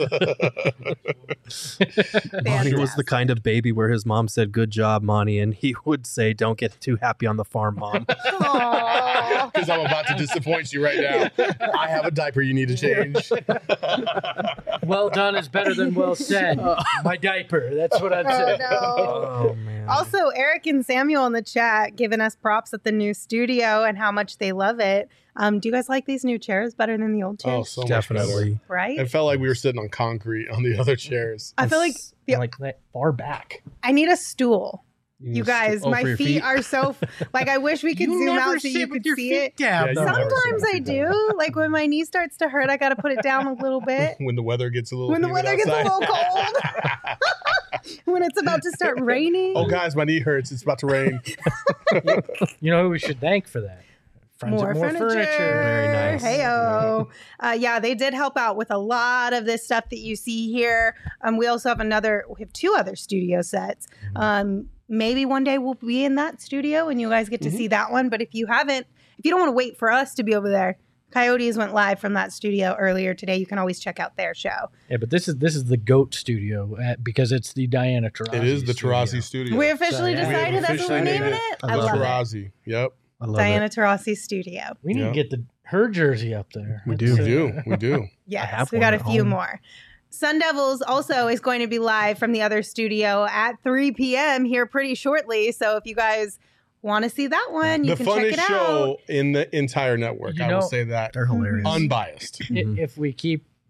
Monty was the kind of baby where his mom said, "Good job, Monty," and he would say, "Don't get too happy on the farm, Mom." Because I'm about to disappoint you right now. I have a diaper you need to change. Well done is better than well said. My diaper. That's what I'd say. no. Oh man. Also, Eric and Samuel in the chat giving us props at the new studio and how much they love it. Do you guys like these new chairs better than the old chairs? Oh, so Definitely. much better. Right? It felt like we were sitting on concrete on the other chairs. I feel like Like that far back. I need a stool. You need a guys, stool- my for your feet are so like I wish we could You zoom never out so sit you with could your see feet it. down, Yeah, though. you never Sometimes sit I with your feet do. Like when my knee starts to hurt, I got to put it down a little bit. When the weather gets a little When the humid weather gets a outside. little cold. When it's about to start raining. Oh, guys, my knee hurts. It's about to rain. You know who we should thank for that? Friends More at furniture. Very nice. Heyo. Yeah, they did help out with a lot of this stuff that you see here. We also have we have 2 other studio sets. Maybe one day we'll be in that studio and you guys get to see that one. But if you don't want to wait for us to be over there, Coyotes went live from that studio earlier today. You can always check out their show. Yeah, but this is the GOAT studio because it's the Diana Taurasi. It is the Taurasi studio. We officially So, yeah. decided that's what we're naming it. I love it. Taurasi. Yep. I love Diana it. Taurasi studio. We need to get her jersey up there. We That's, do. We do. Yes, have we one got a at few home. more. Sun Devils also is going to be live from the other studio at 3 p.m. here pretty shortly. So if you guys want to see that one, you The can check funnest it show out. in the entire network. You I will know- say that. They're hilarious. Unbiased. If we keep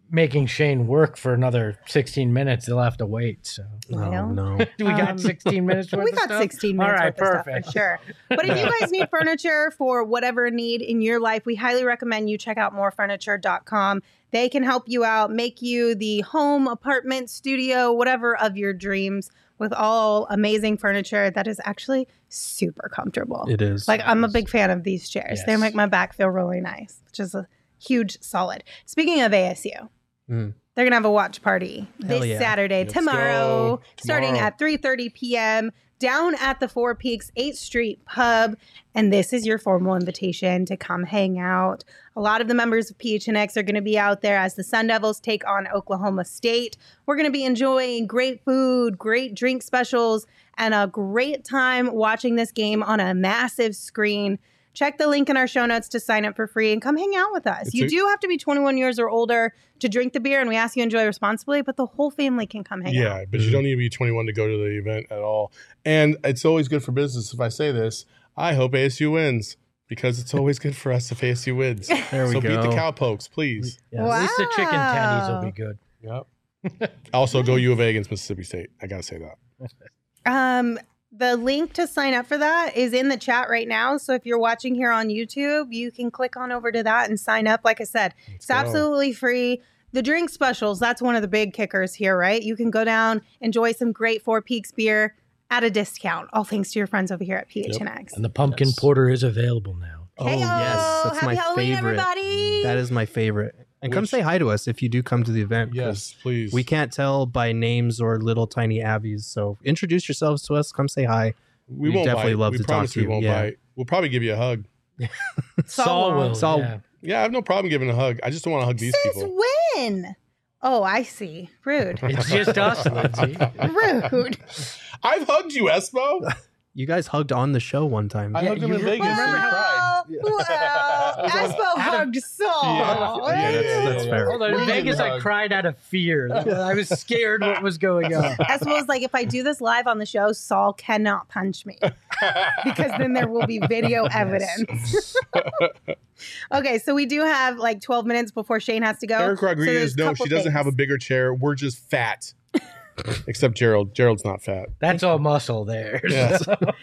making Shane work for another 16 minutes. They'll have to wait. So Oh, no. do we got 16 minutes worth We of got stuff? 16 minutes All right, worth of stuff perfect. for sure. But if you guys need furniture for whatever need in your life, we highly recommend you check out morefurniture.com. They can help you out, make you the home, apartment, studio, whatever of your dreams with all amazing furniture that is actually super comfortable. It is. Like, I'm a big fan of these chairs. They Yes. make my back feel really nice, which is a huge solid. Speaking of ASU, Mm. they're going to have a watch party Hell this yeah. Saturday, Let's tomorrow, go. starting Tomorrow. at 3:30 p.m. down at the Four Peaks 8th Street Pub. And this is your formal invitation to come hang out. A lot of the members of PHNX are going to be out there as the Sun Devils take on Oklahoma State. We're going to be enjoying great food, great drink specials, and a great time watching this game on a massive screen. Check the link in our show notes to sign up for free and come hang out with us. You do have to be 21 years or older to drink the beer, and we ask you enjoy responsibly, but the whole family can come hang out. Yeah, but you don't need to be 21 to go to the event at all. And it's always good for business if I say this. I hope ASU wins because it's always good for us if ASU wins. There we so go. beat the Cowpokes, please. Yeah. At least the chicken tendies will be good. Yep. Also, go U of A against Mississippi State. I got to say that. The link to sign up for that is in the chat right now. So if you're watching here on YouTube, you can click on over to that and sign up. Like I said, it's go. absolutely free. The drink specials, that's one of the big kickers here, right? You can go down, enjoy some great Four Peaks beer at a discount, all thanks to your friends over here at PHNX. And the pumpkin porter is available now. Oh, Heyo! yes. That's Happy my Halloween, favorite. everybody! That is my favorite. And come Which- say hi to us if you do come to the event. 'cause Yes, please. We can't tell by names or little tiny Abbies. So introduce yourselves to us. Come say hi. We We'd won't definitely bite. love we to talk promise to we you. won't Yeah. bite. We'll probably give you a hug. Saul will. Saul- Yeah. Yeah, I have no problem giving a hug. I just don't want to hug these Since people. when? Oh, I see. Rude. It's just us, Lindsay. Rude. I've hugged you, Espo. You guys hugged on the show one time. I hugged him in Vegas. and he cried. Well, Espo hugged Saul. Yeah, that's fair. Hold on, in Really Vegas, I hug. cried out of fear. I was scared what was going on. Espo was like, if I do this live on the show, Saul cannot punch me because then there will be video evidence. Okay, so we do have like 12 minutes before Shane has to go. Eric So Rodriguez, there's a no, couple she doesn't have a things. bigger chair. We're just fat. Except Gerald. Gerald's not fat. That's all muscle there. Yeah.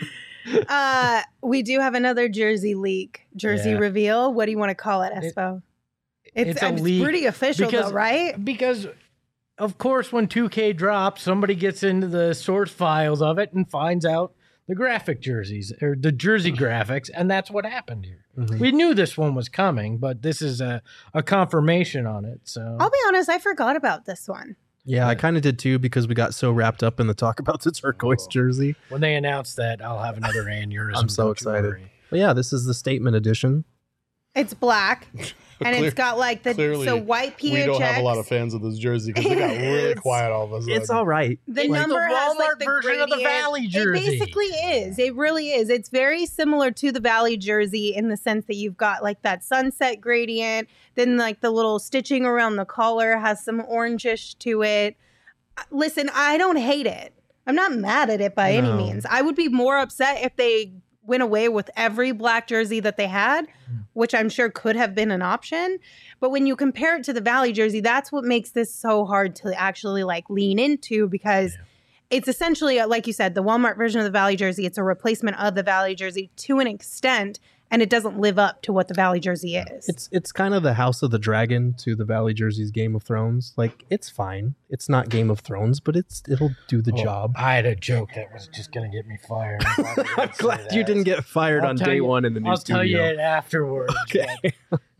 We do have another jersey leak, jersey Yeah. reveal. What do you want to call it, Espo? it's a leak pretty official, because- though, right? Because, of course, when 2K drops, somebody gets into the source files of it and finds out the graphic jerseys or the jersey graphics, and that's what happened here. Mhm. We knew this one was coming, but this is a confirmation on it. So I'll be honest, I forgot about this one. Yeah, I kind of did too because we got so wrapped up in the talk about the turquoise jersey. when they announce that, I'll have another aneurysm. I'm so don't you excited. worry. But yeah, this is the statement edition. It's black, and Clear- it's got like the clearly, so white PHX. We don't have a lot of fans of this jersey because they got really It's- quiet all of a sudden. It's all right. The It's number the has like Walmart the version of the gradient. Valley jersey. It basically is. It really is. It's very similar to the Valley jersey in the sense that you've got like that sunset gradient. Then like the little stitching around the collar has some orangish to it. Listen, I don't hate it. I'm not mad at it by any No. means. I would be more upset if they went away with every black jersey that they had, which I'm sure could have been an option. But when you compare it to the Valley jersey, that's what makes this so hard to actually like lean into because it's essentially, like you said, the Walmart version of the Valley jersey. It's a replacement of the Valley jersey to an extent, and it doesn't live up to what the Valley jersey is. It's kind of the House of the Dragon to the Valley Jersey's Game of Thrones. Like it's fine. It's not Game of Thrones, but it'll do the Oh, job. I had a joke that was just going to get me fired. I'm glad you didn't get fired I'll on tell day you- one in the new I'll studio. tell you it afterwards. Okay.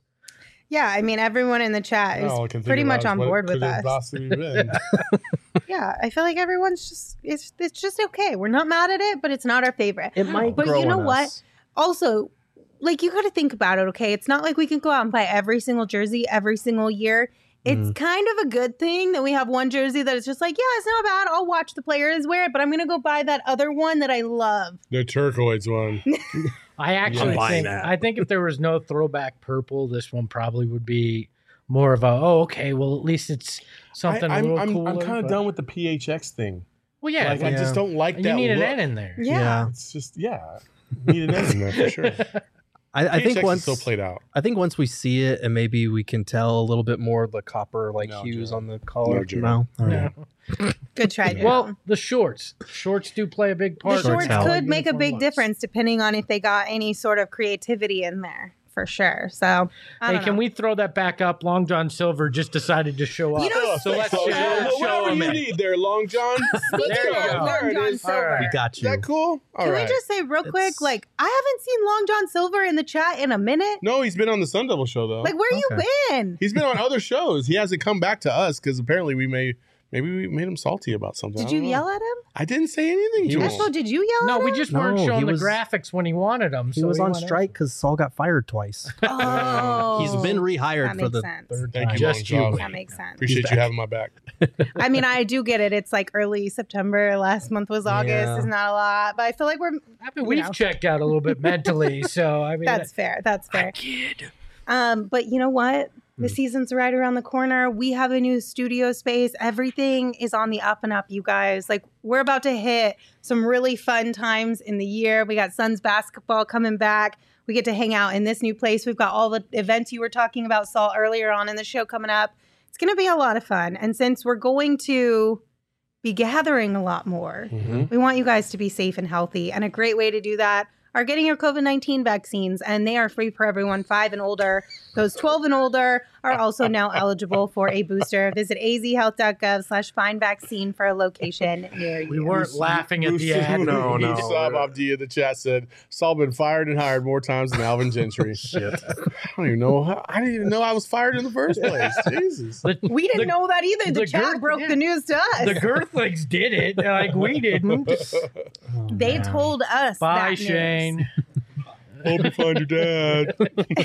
Yeah, I mean, everyone in the chat is All I can think pretty about much is on what board with could have us. possibly been. Yeah, I feel like everyone's just, it's just okay. We're not mad at it, but it's not our favorite. It might But grow you know on what? us. Also, like you got to think about it, okay? It's not like we can go out and buy every single jersey every single year. It's kind of a good thing that we have one jersey that is just like, yeah, it's not bad. I'll watch the players wear it, but I'm going to go buy that other one that I love. The turquoise one. I actually buying think that. I think if there was no throwback purple, this one probably would be more of a okay. Well, at least it's something a little cooler. I'm kind of but- done with the PHX thing. Well, yeah, Like, I just don't like you that need an look. N in there. Yeah. It's just, need an N in there for sure. I think PHX is once still played out. I think once we see it, and maybe we can tell a little bit more of the copper hues Joe. on the collar. No, Joe. No, all No. right. Good try, Joe. Well, the shorts do play a big part. The shorts help. could make a Uniform big looks. difference depending on if they got any sort of creativity in there, for sure. So, I Hey, don't can know. we throw that back up? Long John Silver just decided to show up. You know, so let's show whatever him you it. need there, Long John. Speaking There you of go. Long There it John is. Silver, We got Is you. that cool? All can right. we just say real quick, It's- like, I haven't seen Long John Silver in the chat in a minute. No, he's been on the Sun Devil show though. Like, where you Okay. been? He's been on other shows. He hasn't come back to us because apparently maybe we made him salty about something. Did I you don't know. yell at him? I didn't say anything to him. Espo, did you yell No, at we him? just weren't No, showing he the was- graphics when he wanted them. He so was on wanted- strike because Saul got fired twice. Oh. He's been rehired That for the makes sense. third Thank time. you, Just Long you John. wait. That makes sense. Appreciate you having my back. I mean, I do get it. It's like early September. Last month was August. Yeah. It's not a lot, but I feel like we're. I mean, you we've know. checked out a little bit mentally, so I mean, That's fair. That's fair. But you know what? The season's right around the corner. We have a new studio space. Everything is on the up and up, you guys. Like, we're about to hit some really fun times in the year. We got Suns basketball coming back. We get to hang out in this new place. We've got all the events you were talking about, Saul, earlier on in the show coming up. It's going to be a lot of fun. And since we're going to be gathering a lot more, we want you guys to be safe and healthy. And a great way to do that are getting your COVID-19 vaccines, and they are free for everyone 5 and older. Those 12 and older are also now eligible for a booster. Visit azhealth.gov/find vaccine for a location near you. we weren't laughing at the Bruce- ad. No, no. Saab Abdi in the chat said Saul been fired and hired more times than Alvin Gentry. Shit. I don't even know. I didn't even know I was fired in the first place. Jesus. We didn't know that either. The the chat girth- broke yeah. the news to us. The Girthlings did it, like we didn't. They told us. Bye, that news. Shane. Hope you find your dad.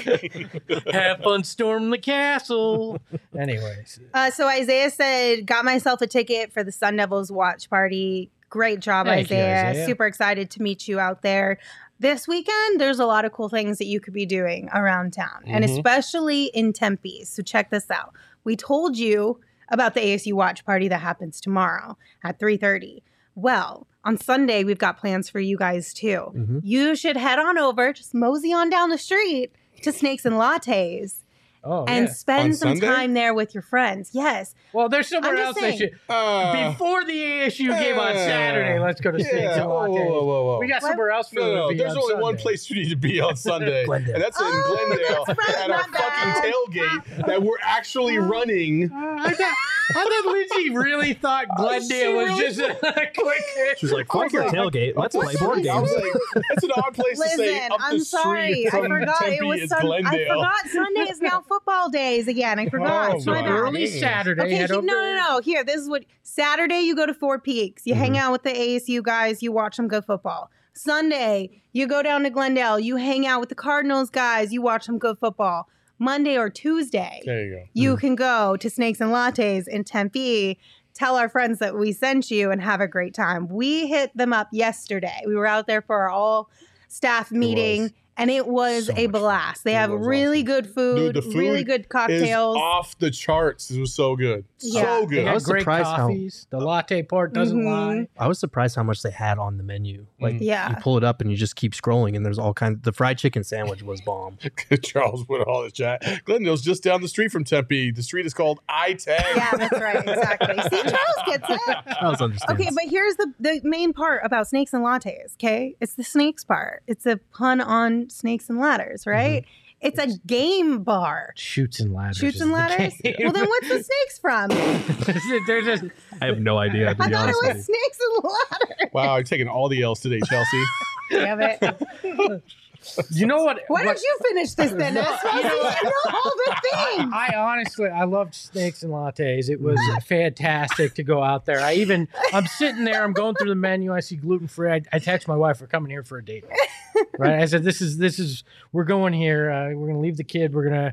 Have fun storming the castle. Anyways, So Isaiah said, got myself a ticket for the Sun Devils watch party. Great job, Thank you, Isaiah. Isaiah. Super excited to meet you out there. This weekend, there's a lot of cool things that you could be doing around town, and especially in Tempe. So check this out. We told you about the ASU watch party that happens tomorrow at 3:30. Well, on Sunday, we've got plans for you guys too. You should head on over, just mosey on down the street to Snakes and Lattes and spend On some Sunday? time there with your friends. Yes. well, there's somewhere I'm else just they saying. should. Before the ASU game on Saturday, let's go to Snakes Yeah. and Whoa, Lattes. whoa, whoa, whoa. We got somewhere else for them No, to be there's on only one Sunday. place you need to be on Sunday, Glendale. and that's in Oh, Glendale that's right, at our my bad. fucking tailgate that we're actually running. I thought Lindsay really thought Glendale was really just a quick. She was like, fuck your tailgate. Let's play board I games. was like, that's an odd place to say. Listen, Up the I'm street sorry. I from forgot Tempe it was is I Glendale. forgot Sunday is now football days again. I forgot. Oh, It's my my bad. Early goodness. Saturday. Okay, head over no. Here, this is what Saturday you go to Four Peaks. You hang out with the ASU guys. You watch them go football. Sunday you go down to Glendale. You hang out with the Cardinals guys. You watch them go football. Monday or Tuesday, There you go. you can go to Snakes and Lattes in Tempe. Tell our friends that we sent you and have a great time. We hit them up yesterday. We were out there for our all staff meeting. And it was So a much fun. blast. They It have was really awesome. good food, Dude, the food really good Is cocktails. off the charts. It was so good. Yeah. So They good. I got was great surprised how- coffees. The latte part doesn't lie. I was surprised how much they had on the menu. Like, Yeah. you pull it up and you just keep scrolling, and there's all kinds. The fried chicken sandwich was bomb. Charles put all the chat. Glendale's just down the street from Tempe. The street is called I-10. Yeah, that's right. Exactly. See, Charles gets it. That was understandable. Okay, but here's the main part about snakes and lattes, okay? It's the snakes part. It's a pun on snakes and ladders, right? It's a game bar. Shoots and ladders. Shoots is and the ladders? game. Well, then what's the snakes from? There's just I have no idea. To I be thought it honest with was snakes and ladders. Wow, you're taking all the L's today, Chelsea. Damn it. you know what? Why don't you finish this then? That's supposed to know all the things. I honestly, I loved Snakes and Lattes. It was fantastic to go out there. I'm sitting there, I'm going through the menu. I see gluten free. I text my wife, we're coming here for a date. Right? I said, this is, we're going here. We're going to leave the kid.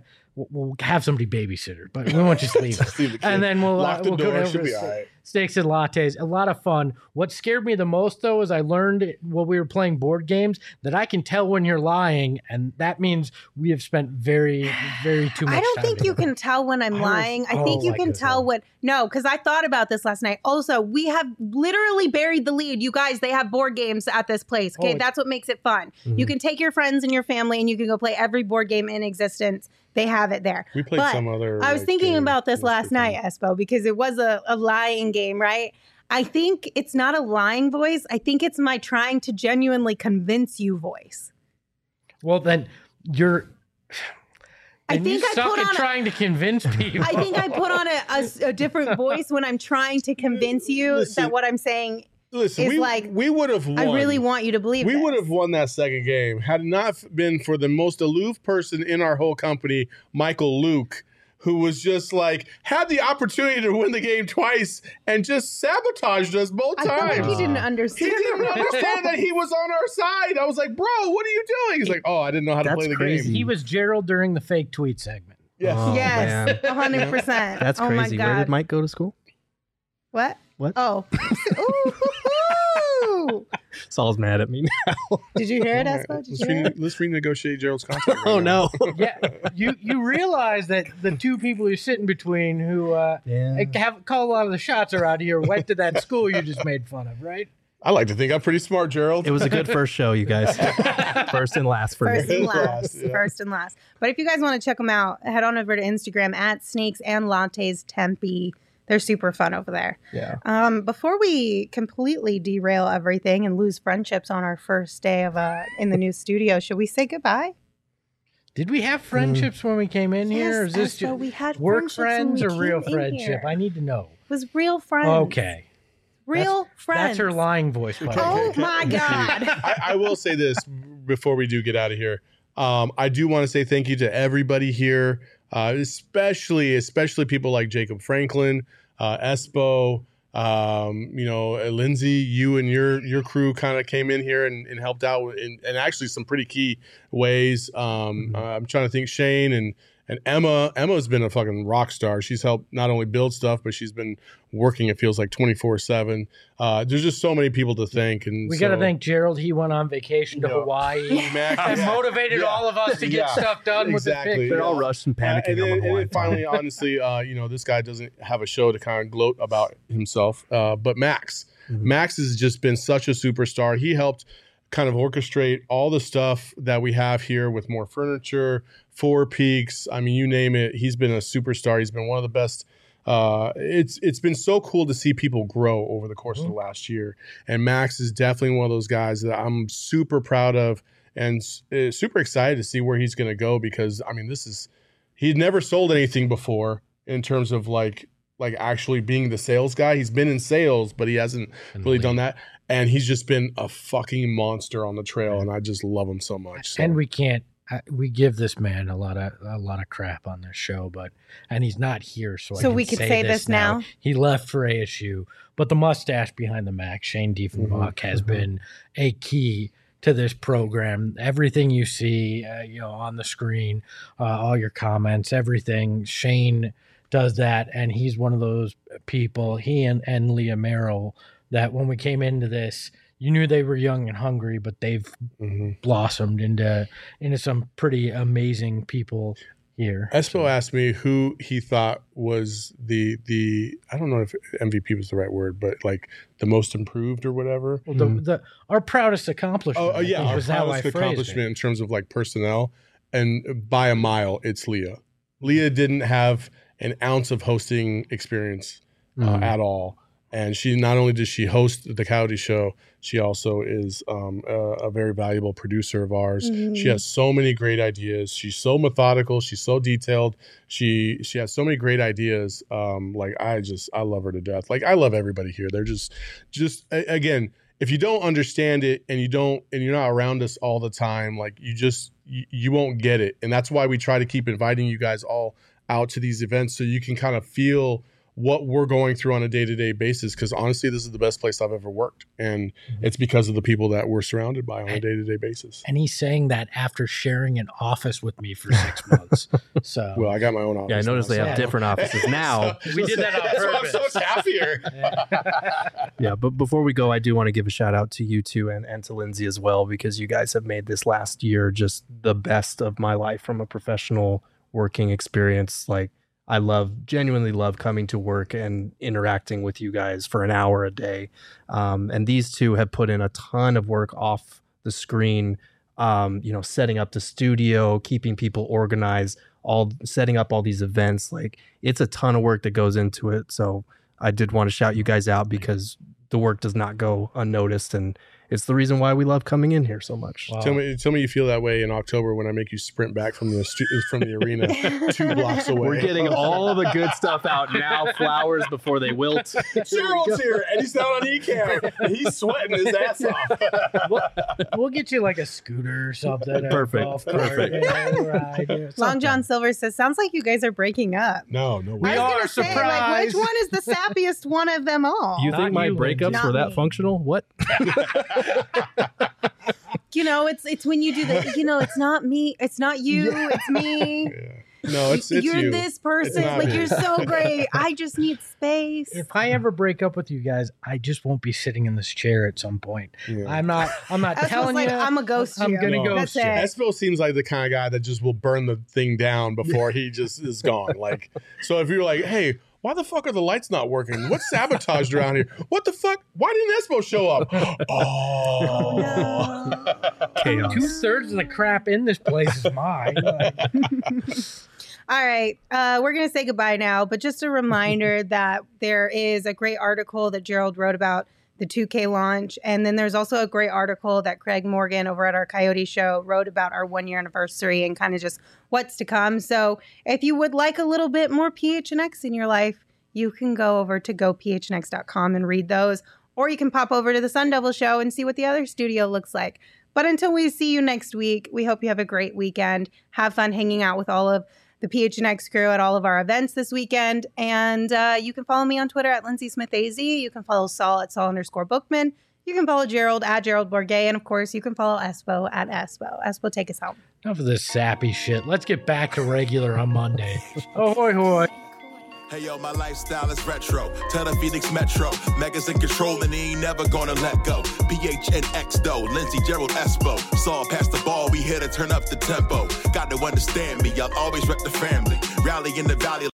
We'll have somebody babysit her, but we won't just leave her. Just leave the kid. And then we'll Lock the we'll door. go over Should to be all right. Steaks and Lattes. A lot of fun. What scared me the most, though, is I learned while we were playing board games that I can tell when you're lying, and that means we have spent very, very too much I don't time think you together. can tell when I'm I lying. I was- think oh you my can goodness. tell what. No, because I thought about this last night. Also, we have literally buried the lead. You guys, they have board games at this place. Okay, Oh, that's what makes it fun. You can take your friends and your family and you can go play every board game in existence. They have it there. We played But some other. I was thinking about this last night, Espo, because it was a lying game, right? I think it's not a lying voice. I think it's my trying to genuinely convince you voice. Well, then you're. I And think you I suck put at on trying to convince people. I think I put on a different voice when I'm trying to convince you that what I'm saying Listen, is we would have won. I really want you to believe We this. would have won that second game had it not been for the most aloof person in our whole company, Michael Luke, who was just like had the opportunity to win the game twice and just sabotaged us both I times. feel like he didn't understand. He didn't understand that he was on our side. I was like, bro, what are you doing? He's like, oh, I didn't know how to play the game. He was Gerald during the fake tweet segment. Yes. Oh, Yes, man. 100%. That's Oh my crazy. Where did God. Mike go to school? What? What? Oh. Ooh. Saul's mad at me now. Did you hear it, Espo? Did you hear it? Let's renegotiate Gerald's contract. Oh no. Yeah, you realize that the two people you're sitting between who have called a lot of the shots around here went to that school you just made fun of, right? I like to think I'm pretty smart, Gerald. It was a good first show, you guys. First and last for First me. and last. Yeah. First and last. But if you guys want to check them out, head on over to Instagram at Snakes and Lattes Tempe. They're super fun over there. Yeah. Before we completely derail everything and lose friendships on our first day of in the new studio, should we say goodbye? Did we have friendships when we came in here? Or is this Espo, just we had work friendships when friends we or real came in friendship? here. I need to know. It was real friends. Okay. Real friends. That's her lying voice. By the way. Oh my God. I will say this before we do get out of here. I do want to say thank you to everybody here, especially people like Jacob Franklin, Espo, Lindsay. You and your crew kind of came in here and helped out in actually some pretty key ways. I'm trying to think. Shane and Emma. Emma's been a fucking rock star. She's helped not only build stuff, but she's been working, it feels like 24/7. There's just so many people to thank. And We got to thank Gerald. He went on vacation to Hawaii and motivated all of us to get stuff done with the pick. They're all rushed and panicking. And then finally, honestly, this guy doesn't have a show to kind of gloat about himself. But Max. Max has just been such a superstar. He helped kind of orchestrate all the stuff that we have here with more furniture, Four Peaks. I mean, you name it. He's been a superstar. He's been one of the best. It's been so cool to see people grow over the course of the last year. And Max is definitely one of those guys that I'm super proud of and super excited to see where he's going to go, because I mean, he'd never sold anything before in terms of like actually being the sales guy. He's been in sales, but he hasn't really done that. And he's just been a fucking monster on the trail, and I just love him so much. So. And we can't. We give this man a lot of crap on this show, and he's not here, so we could say this now. He left for ASU, but the mustache behind the Mac, Shane Diefenbach, has been a key to this program. Everything you see, on the screen, all your comments, everything. Shane does that, and he's one of those people. He and Leah Merrill, that when we came into this, you knew they were young and hungry, but they've blossomed into some pretty amazing people here. Espo asked me who he thought was the I don't know if MVP was the right word, but like the most improved or whatever. Well, our proudest accomplishment. Oh yeah, our was how I proudest phrased accomplishment it. in terms of like personnel, and by a mile, it's Leah. Leah didn't have an ounce of hosting experience at all. And she not only does she host the Coyote Show, she also is a very valuable producer of ours. She has so many great ideas. She's so methodical. She's so detailed. She has so many great ideas. I love her to death. Like, I love everybody here. They're just again, if you don't understand it and you're not around us all the time, like you won't get it. And that's why we try to keep inviting you guys all out to these events so you can kind of feel what we're going through on a day-to-day basis, because honestly, this is the best place I've ever worked, and it's because of the people that we're surrounded by on a day-to-day basis. And he's saying that after sharing an office with me for 6 months. So, well, I got my own office. Yeah, I noticed they have different offices now. We did that on That's purpose. why I'm so happier. Yeah, but before we go, I do want to give a shout out to you two and to Lindsay as well, because you guys have made this last year just the best of my life from a professional working experience. Like, I genuinely love coming to work and interacting with you guys for an hour a day. And these two have put in a ton of work off the screen setting up the studio, keeping people organized, setting up all these events. Like, it's a ton of work that goes into it. So I did want to shout you guys out because the work does not go unnoticed, and it's the reason why we love coming in here so much. Wow. Tell me you feel that way in October when I make you sprint back from the arena 2 blocks away. We're getting all of the good stuff out now, flowers before they wilt. Gerald's here, and he's not on ECAM, and he's sweating his ass off. We'll get you like a scooter or something. Perfect. Long John Silver says, sounds like you guys are breaking up. No, we are surprised. Which one is the sappiest one of them all? You think my breakups were that functional? What? It's when you do it's not me, it's not you, it's me. Yeah. No, it's you're you. This person, like me. you're so great. I just need space. If I ever break up with you guys, I just won't be sitting in this chair at some point. Yeah. I'm not telling you. I'm a ghost. I'm gonna ghost you. Espo seems like the kind of guy that just will burn the thing down before he just is gone. Like, so if you're like, hey, why the fuck are the lights not working? What's sabotaged around here? What the fuck? Why didn't Espo show up? Oh, no. Chaos. 2/3 of the crap in this place is mine. All right, we're going to say goodbye now, but just a reminder that there is a great article that Gerald wrote about the 2K launch, and then there's also a great article that Craig Morgan over at our Coyote Show wrote about our 1-year anniversary and kind of just what's to come. So if you would like a little bit more PHNX in your life, you can go over to gophnx.com and read those, or you can pop over to the Sun Devil Show and see what the other studio looks like. But until we see you next week, we hope you have a great weekend. Have fun hanging out with all of the PHNX crew at all of our events this weekend. And you can follow me on Twitter at Lindsay Smith AZ. You can follow Saul at Saul_Bookman. You can follow Gerald at Gerald Bourget. And of course, you can follow Espo at Espo. Espo, take us home. Enough of this sappy shit. Let's get back to regular on Monday. Ahoy, hoy. Hey yo, my lifestyle is retro. Tell the Phoenix Metro. Megas in control and he ain't never gonna let go. PHNX though, Lindsay, Gerald, Espo. Saw past the ball, we here to turn up the tempo. Got to understand me, I'll always wreck the family. Rally in the valley.